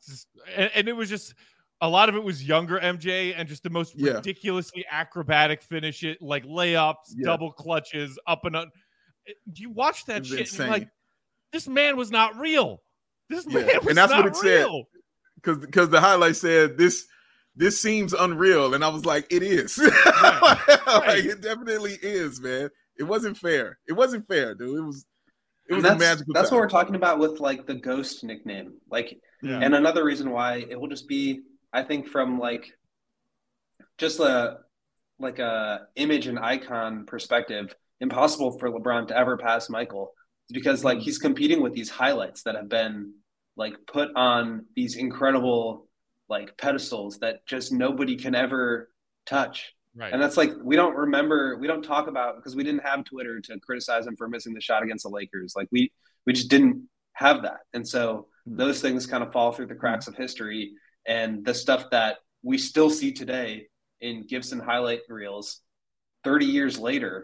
and it was just a lot of it was younger MJ and just the most ridiculously acrobatic finish, it like layups, double clutches, up and up. You watch that shit and you're like, this man was not real. This man was and that's not what it real. Said. Because the highlight said this seems unreal, and I was like, it is. Right. Like, it definitely is, man. It wasn't fair. It wasn't fair, dude. It was a magical That's time. what we're talking about with like the Ghost nickname. Like, and another reason why it will just be, I think, from like just a image and icon perspective, impossible for LeBron to ever pass Michael, because like he's competing with these highlights that have been like put on these incredible like pedestals that just nobody can ever touch. Right. And that's like, we don't talk about, because we didn't have Twitter to criticize him for missing the shot against the Lakers. Like we just didn't have that. And so those things kind of fall through the cracks of history, and the stuff that we still see today in Gibson highlight reels 30 years later,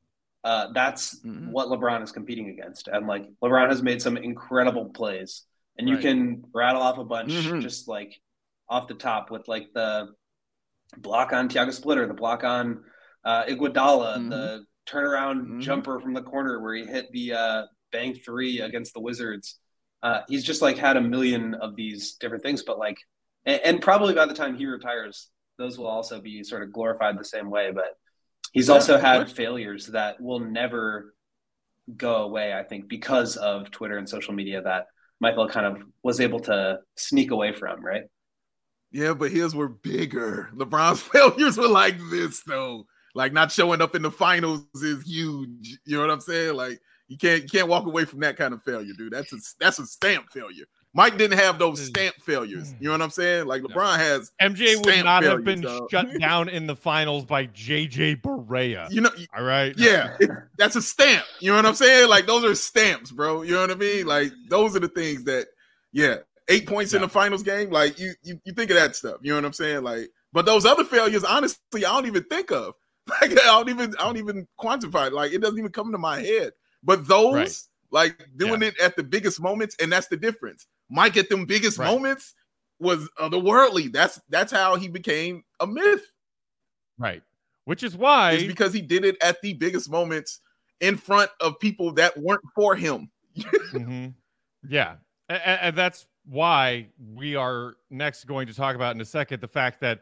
that's what LeBron is competing against. And like LeBron has made some incredible plays, and you can rattle off a bunch just like off the top with like the block on Thiago Splitter, the block on Iguodala, the turnaround jumper from the corner where he hit the bank three against the Wizards. He's just like had a million of these different things, but like, and probably by the time he retires, those will also be sort of glorified the same way. But he's also had failures that will never go away, I think, because of Twitter and social media that Michael kind of was able to sneak away from, right? Yeah, but his were bigger. LeBron's failures were like this, though. Like not showing up in the finals is huge. You know what I'm saying? Like you can't walk away from that kind of failure, dude. That's a stamp failure. Mike didn't have those stamp failures. You know what I'm saying? Like LeBron has. MJ would not have been though. shut down in the finals by JJ Barea. You know, all right? Yeah, that's a stamp. You know what I'm saying? Like those are stamps, bro. You know what I mean? Like those are the things that, 8 points in the finals game. Like you think of that stuff. You know what I'm saying? Like, but those other failures, honestly, I don't even think of. Like I don't even quantify it. Like it doesn't even come to my head. But those, like doing it at the biggest moments, and that's the difference. Mike at them biggest moments was otherworldly. That's how he became a myth. Right. Which is why it's because he did it at the biggest moments in front of people that weren't for him. Mm-hmm. Yeah. And that's why we are next going to talk about in a second the fact that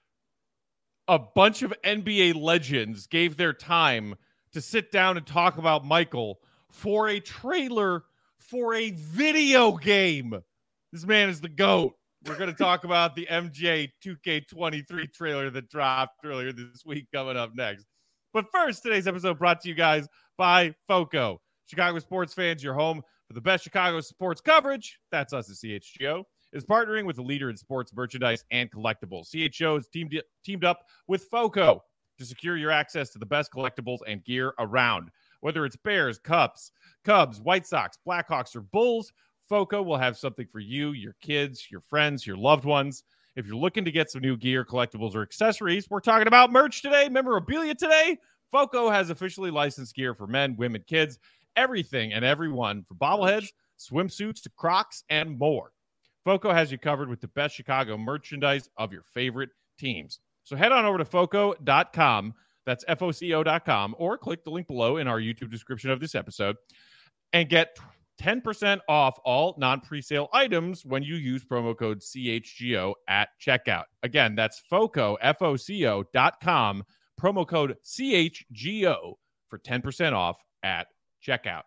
a bunch of NBA legends gave their time to sit down and talk about Michael for a trailer for a video game. This man is the GOAT. We're going to talk about the MJ 2K23 trailer that dropped earlier this week coming up next. But first, today's episode brought to you guys by FOCO. Chicago sports fans, your home for the best Chicago sports coverage. That's us at CHGO. Is partnering with a leader in sports merchandise and collectibles. CHGO is teamed up with FOCO to secure your access to the best collectibles and gear around. Whether it's Bears, Cubs, White Sox, Blackhawks, or Bulls, FOCO will have something for you, your kids, your friends, your loved ones. If you're looking to get some new gear, collectibles, or accessories, we're talking about merch today, memorabilia today. FOCO has officially licensed gear for men, women, kids, everything and everyone, from bobbleheads, swimsuits, to Crocs, and more. FOCO has you covered with the best Chicago merchandise of your favorite teams. So head on over to FOCO.com. That's FOCO.com, or click the link below in our YouTube description of this episode and get 10% off all non-presale items when you use promo code CHGO at checkout. Again, that's FOCO, FOCO.com, promo code CHGO for 10% off at checkout.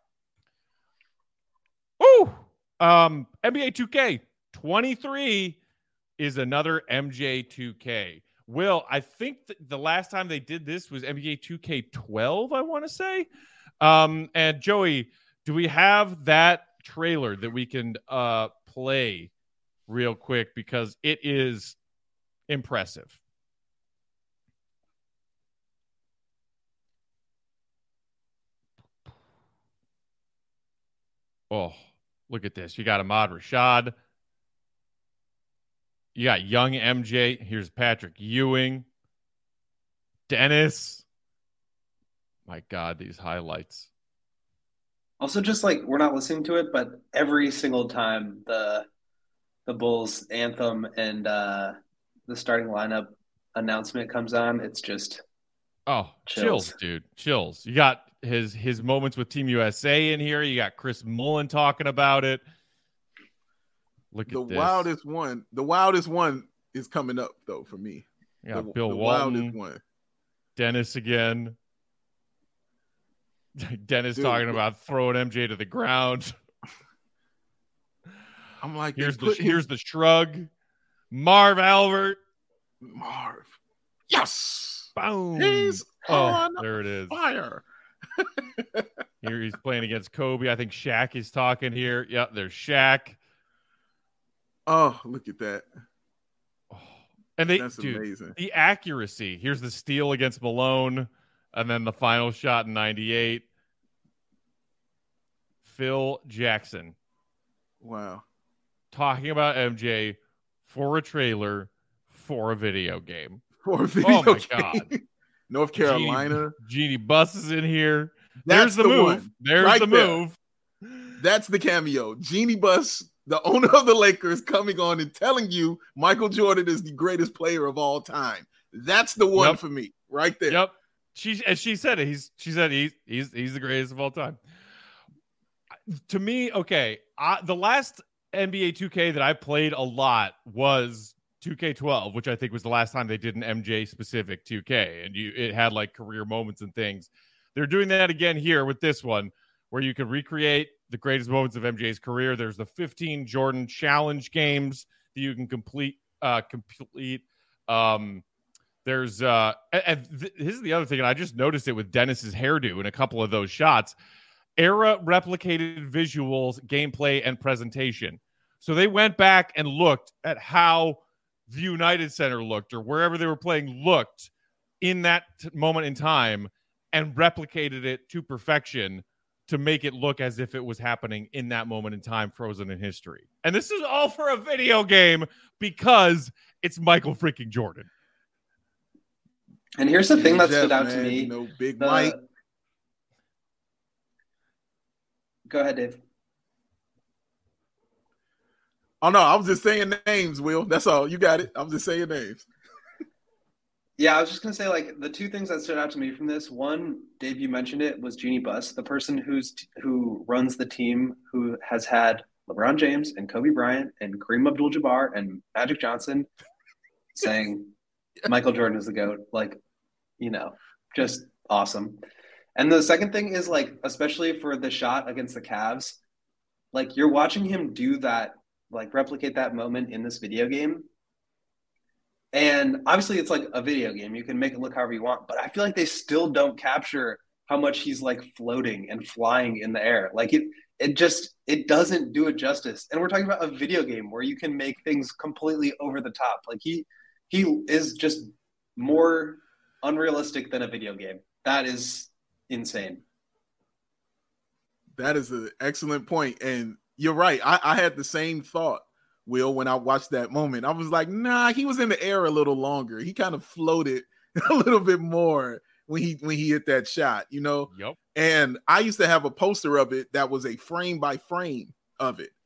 Woo! NBA 2K23 is another MJ 2K. Will, I think the last time they did this was NBA 2K12, I want to say. And Joey, do we have that trailer that we can play real quick? Because it is impressive. Oh, look at this. You got Ahmad Rashad. You got young MJ. Here's Patrick Ewing. Dennis. My God, these highlights. Also, just like we're not listening to it, but every single time the Bulls anthem and the starting lineup announcement comes on, it's just chills, dude. Chills. You got his moments with Team USA in here. You got Chris Mullin talking about it. Look at this. The wildest one is coming up though for me. Yeah, Bill Walton, one. Dennis again. Dennis talking about throwing MJ to the ground. I'm like, here's the shrug. Marv Albert. Yes. Boom. He's on there it is. Fire. Here he's playing against Kobe. I think Shaq is talking here. Yep, there's Shaq. Oh, look at that. Oh. And that's amazing. The accuracy. Here's the steal against Malone. And then the final shot in 98. Phil Jackson. Wow. Talking about MJ for a trailer for a video game. Oh my God. North Carolina. Jeannie Buss is in here. There's the move. One. There's right the move. That's the cameo. Jeannie Buss, the owner of the Lakers, coming on and telling you Michael Jordan is the greatest player of all time. That's the one for me right there. Yep. She said it. She said he's the greatest of all time. To me, okay, the last NBA 2K that I played a lot was 2K12, which I think was the last time they did an MJ specific 2K, and it had like career moments and things. They're doing that again here with this one, where you can recreate the greatest moments of MJ's career. There's the 15 Jordan Challenge games that you can complete. There's this is the other thing, and I just noticed it with Dennis's hairdo in a couple of those shots. Era replicated visuals, gameplay, and presentation. So they went back and looked at how the United Center looked, or wherever they were playing looked in that moment in time, and replicated it to perfection to make it look as if it was happening in that moment in time, frozen in history. And this is all for a video game because it's Michael freaking Jordan. And here's the thing that stood out to me. You know, Big Mike. Go ahead, Dave. Oh, no, I was just saying names, Will. That's all. You got it. I'm just saying names. Yeah, I was just going to say, like, the two things that stood out to me from this. One, Dave, you mentioned it, was Jeannie Buss, the person who runs the team, who has had LeBron James and Kobe Bryant and Kareem Abdul-Jabbar and Magic Johnson saying Michael Jordan is the GOAT. Like, you know, just awesome. And the second thing is, like, especially for the shot against the Cavs, like, you're watching him do that, like, replicate that moment in this video game. And obviously it's like a video game. You can make it look however you want, but I feel like they still don't capture how much he's like floating and flying in the air. Like it doesn't do it justice. And we're talking about a video game where you can make things completely over the top. Like he is just more unrealistic than a video game. That is insane. That is an excellent point. And you're right. I had the same thought, Will, when I watched that moment. I was like, nah, he was in the air a little longer. He kind of floated a little bit more when he hit that shot, you know? Yep. And I used to have a poster of it that was a frame by frame of it.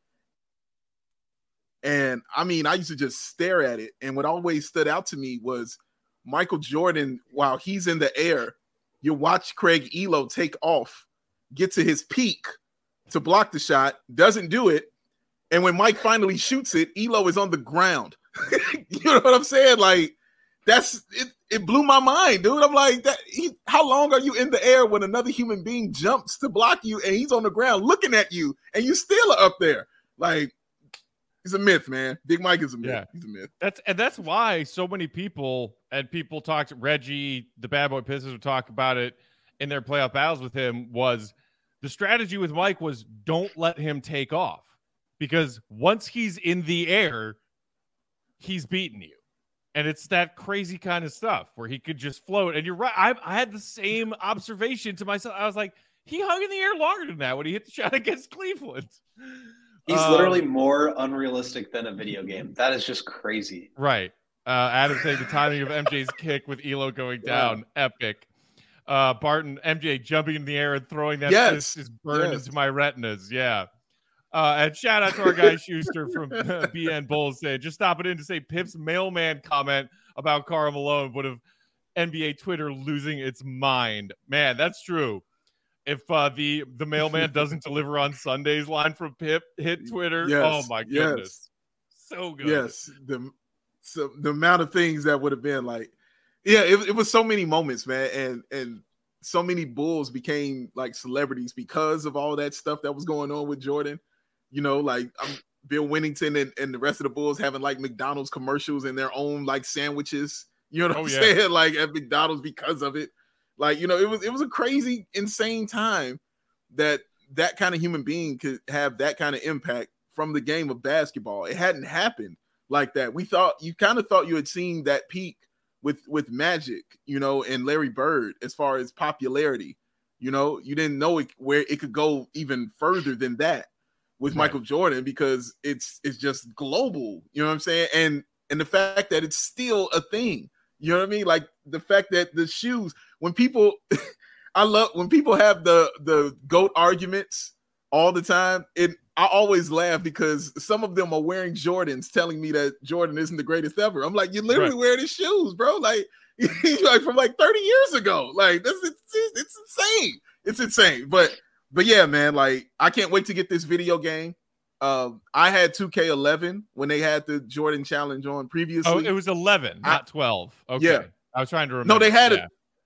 And I mean, I used to just stare at it. And what always stood out to me was Michael Jordan, while he's in the air, you watch Craig Elo take off, get to his peak to block the shot, doesn't do it. And when Mike finally shoots it, Elo is on the ground. You know what I'm saying? Like, that's it. It blew my mind, dude. I'm like, how long are you in the air when another human being jumps to block you and he's on the ground looking at you and you still are up there? Like, he's a myth, man. Big Mike is a myth. Yeah. He's a myth. That's why so many people talked. Reggie, the Bad Boy Pistons, would talk about it in their playoff battles with him. Was the strategy with Mike was don't let him take off. Because once he's in the air, he's beating you. And it's that crazy kind of stuff where he could just float. And you're right. I had the same observation to myself. I was like, he hung in the air longer than that when he hit the shot against Cleveland. He's literally more unrealistic than a video game. That is just crazy. Right. Adam saying the timing of MJ's kick with Elo going down. Epic. Barton, MJ jumping in the air and throwing that fist is burned into my retinas. Yeah. And shout out to our guy Schuster from BN Bulls saying, just stopping in to say Pip's mailman comment about Karl Malone would have NBA Twitter losing its mind. Man, that's true. If the mailman doesn't deliver on Sundays line from Pip hit Twitter, oh my goodness. So good. Yes. The amount of things that would have been like, it was so many moments, man. And so many Bulls became like celebrities because of all that stuff that was going on with Jordan. You know, like Bill Winnington and the rest of the Bulls having like McDonald's commercials and their own like sandwiches. You know what I'm saying? Like at McDonald's because of it. Like, you know, it was a crazy, insane time that kind of human being could have that kind of impact from the game of basketball. It hadn't happened like that. You kind of thought you had seen that peak with Magic, you know, and Larry Bird as far as popularity. You know, you didn't know where it could go even further than that with Michael Jordan, because it's just global, you know what I'm saying? And the fact that it's still a thing, you know what I mean? Like the fact that the shoes, when people, I love when people have the GOAT arguments all the time. I always laugh because some of them are wearing Jordans telling me that Jordan isn't the greatest ever. I'm like, you're literally wearing his shoes, bro. Like he's like from like 30 years ago. Like it's insane. It's insane. But yeah, man, like I can't wait to get this video game. I had 2K11 when they had the Jordan Challenge on previously. Oh, it was 11, not 12. Okay. Yeah. I was trying to remember. No, they had it.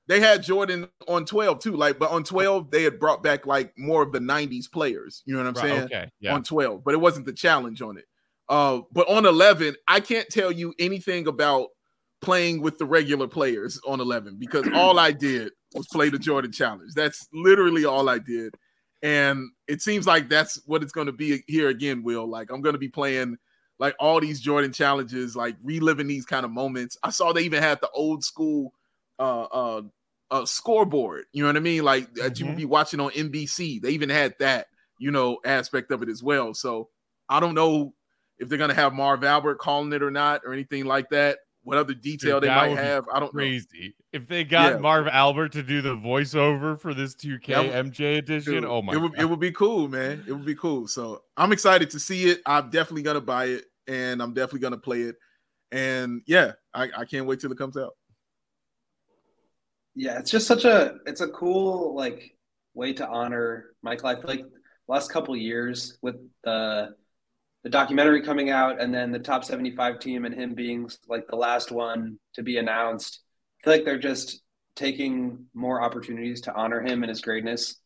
They had Jordan on 12 too, but on 12 they had brought back more of the 90s players. You know what I'm saying? Okay, yeah. On 12, but it wasn't the challenge on it. But on 11, I can't tell you anything about playing with the regular players on 11 because all I did was play the Jordan challenge. That's literally all I did. And it seems like that's what it's going to be here again, Will. I'm going to be playing all these Jordan challenges, reliving these kind of moments. I saw they even had the old school scoreboard, you know what I mean? That you would be watching on NBC. They even had that, aspect of it as well. So I don't know if they're going to have Marv Albert calling it or not or anything like that. What other detail they might have, I don't know. Crazy. If they got Marv Albert to do the voiceover for this 2K MJ edition, dude, oh my God. It would be cool, man. It would be cool. So I'm excited to see it. I'm definitely going to buy it, and I'm definitely going to play it. And yeah, I can't wait till it comes out. Yeah, it's just it's a cool way to honor Michael. I feel like last couple years with the documentary coming out and then the top 75 team and him being the last one to be announced, I feel like they're just taking more opportunities to honor him and his greatness.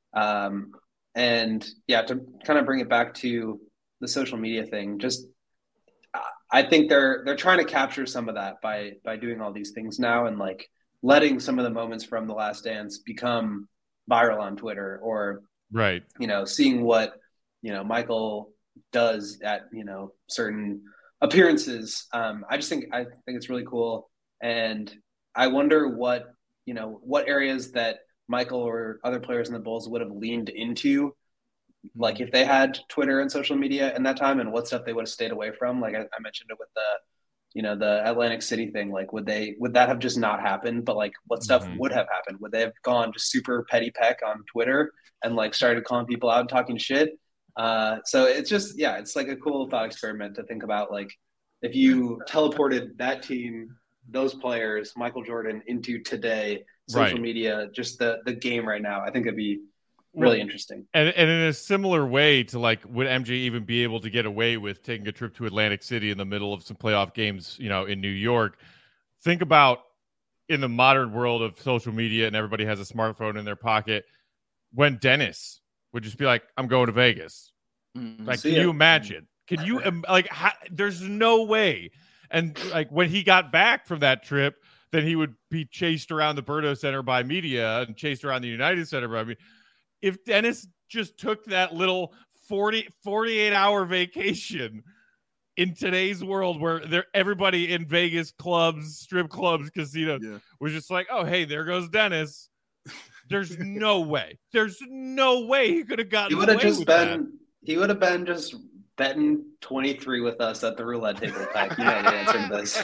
And yeah, to kind of bring it back to the social media thing, I think they're trying to capture some of that by doing all these things now and letting some of the moments from The Last Dance become viral on Twitter or, right. Seeing what, Michael does at, certain appearances. I think it's really cool. And I wonder what areas that Michael or other players in the Bulls would have leaned into, if they had Twitter and social media in that time, and what stuff they would have stayed away from. I mentioned it with the Atlantic City thing. Would that have just not happened? But what stuff would have happened? Would they have gone just super petty peck on Twitter and started calling people out and talking shit? So it's just, it's a cool thought experiment to think about. If you teleported that team, those players, Michael Jordan, into today, social media, just the game right now, I think it'd be really interesting. And in a similar way to would MJ even be able to get away with taking a trip to Atlantic City in the middle of some playoff games, in New York? Think about in the modern world of social media and everybody has a smartphone in their pocket, when Dennis would just be I'm going to Vegas. Can you imagine? Can you there's no way. And when he got back from that trip, then he would be chased around the Berto Center by media and chased around the United Center by media. If Dennis just took that little 48-hour vacation in today's world where everybody in Vegas clubs, strip clubs, casinos was just oh, hey, there goes Dennis. There's no way. There's no way he could have gotten He would have been just betting 23 with us at the roulette table. Pack. You know the answer to this.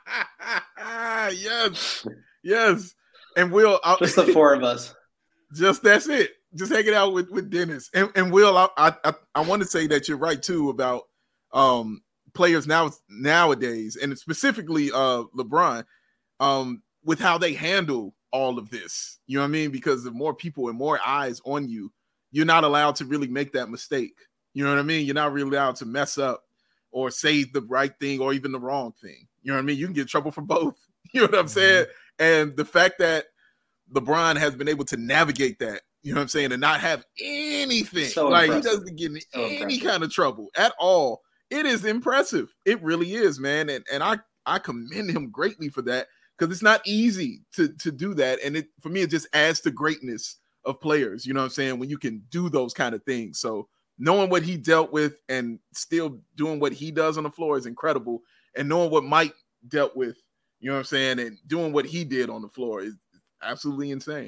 Yes. And Will, just the four of us. Just that's it. Just hanging out with Dennis. And Will, I want to say that you're right too about players nowadays, and specifically LeBron, with how they handle all of this. You know what I mean? Because the more people and more eyes on you, you're not allowed to really make that mistake. You know what I mean? You're not really allowed to mess up or say the right thing or even the wrong thing. You know what I mean? You can get in trouble for both. You know what I'm saying? And the fact that LeBron has been able to navigate that, you know what I'm saying, and not have anything, he doesn't get in any kind of trouble at all. It is impressive. It really is, man. And I commend him greatly for that, because it's not easy to do that. And for me, it just adds to greatness of players, you know what I'm saying, when you can do those kind of things. So knowing what he dealt with and still doing what he does on the floor is incredible. And knowing what Mike dealt with, you know what I'm saying, and doing what he did on the floor is absolutely insane.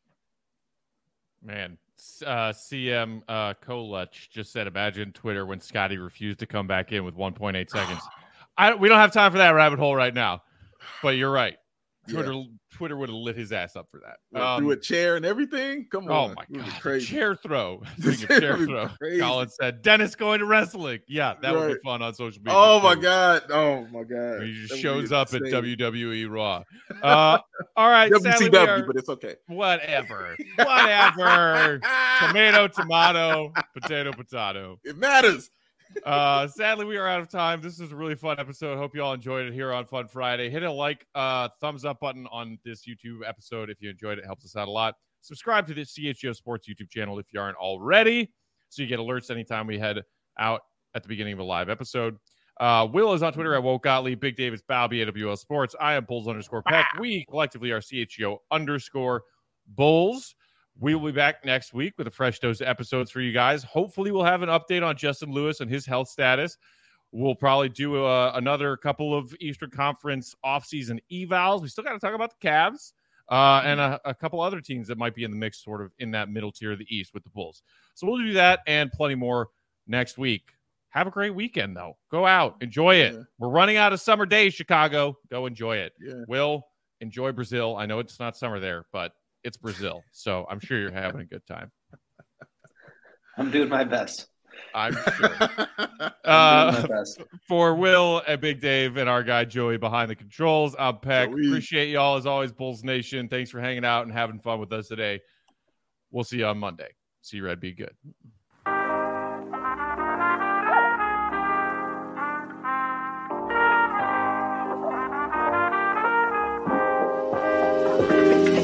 Man, CM Kolach just said, imagine Twitter when Scotty refused to come back in with 1.8 seconds. We don't have time for that rabbit hole right now, but you're right. Twitter would have lit his ass up for that. Threw a chair and everything. Come on. Oh my God. Crazy. Chair throw. Chair throw. Colin said, Dennis going to wrestling. Yeah, that would be fun on social media. Oh my God. He just shows up at WWE Raw. All right. WCW, but it's okay. Whatever. Tomato, potato. It matters. Sadly, we are out of time. This is a really fun episode. Hope you all enjoyed it here on Fun Friday. Hit a thumbs up button on this YouTube episode if you enjoyed it. It helps us out a lot. Subscribe to the CHGO Sports YouTube channel if you aren't already, so you get alerts anytime we head out at the beginning of a live episode. Will is on Twitter at Woke Gottlieb. Big David's Balby, AWL Sports. I am Bulls_Peck. We collectively are CHGO_Bulls. We will be back next week with a fresh dose of episodes for you guys. Hopefully, we'll have an update on Justin Lewis and his health status. We'll probably do another couple of Eastern Conference offseason evals. We still got to talk about the Cavs and a couple other teams that might be in the mix, sort of in that middle tier of the East with the Bulls. So we'll do that and plenty more next week. Have a great weekend, though. Go out. Enjoy it. We're running out of summer days, Chicago. Go enjoy it. Will, enjoy Brazil. I know it's not summer there, but it's Brazil, so I'm sure you're having a good time. I'm doing my best. I'm sure. I'm doing my best. For Will and Big Dave and our guy Joey behind the controls, I'm Peck. Appreciate y'all as always, Bulls Nation. Thanks for hanging out and having fun with us today. We'll see you on Monday. See you, Red. Be good.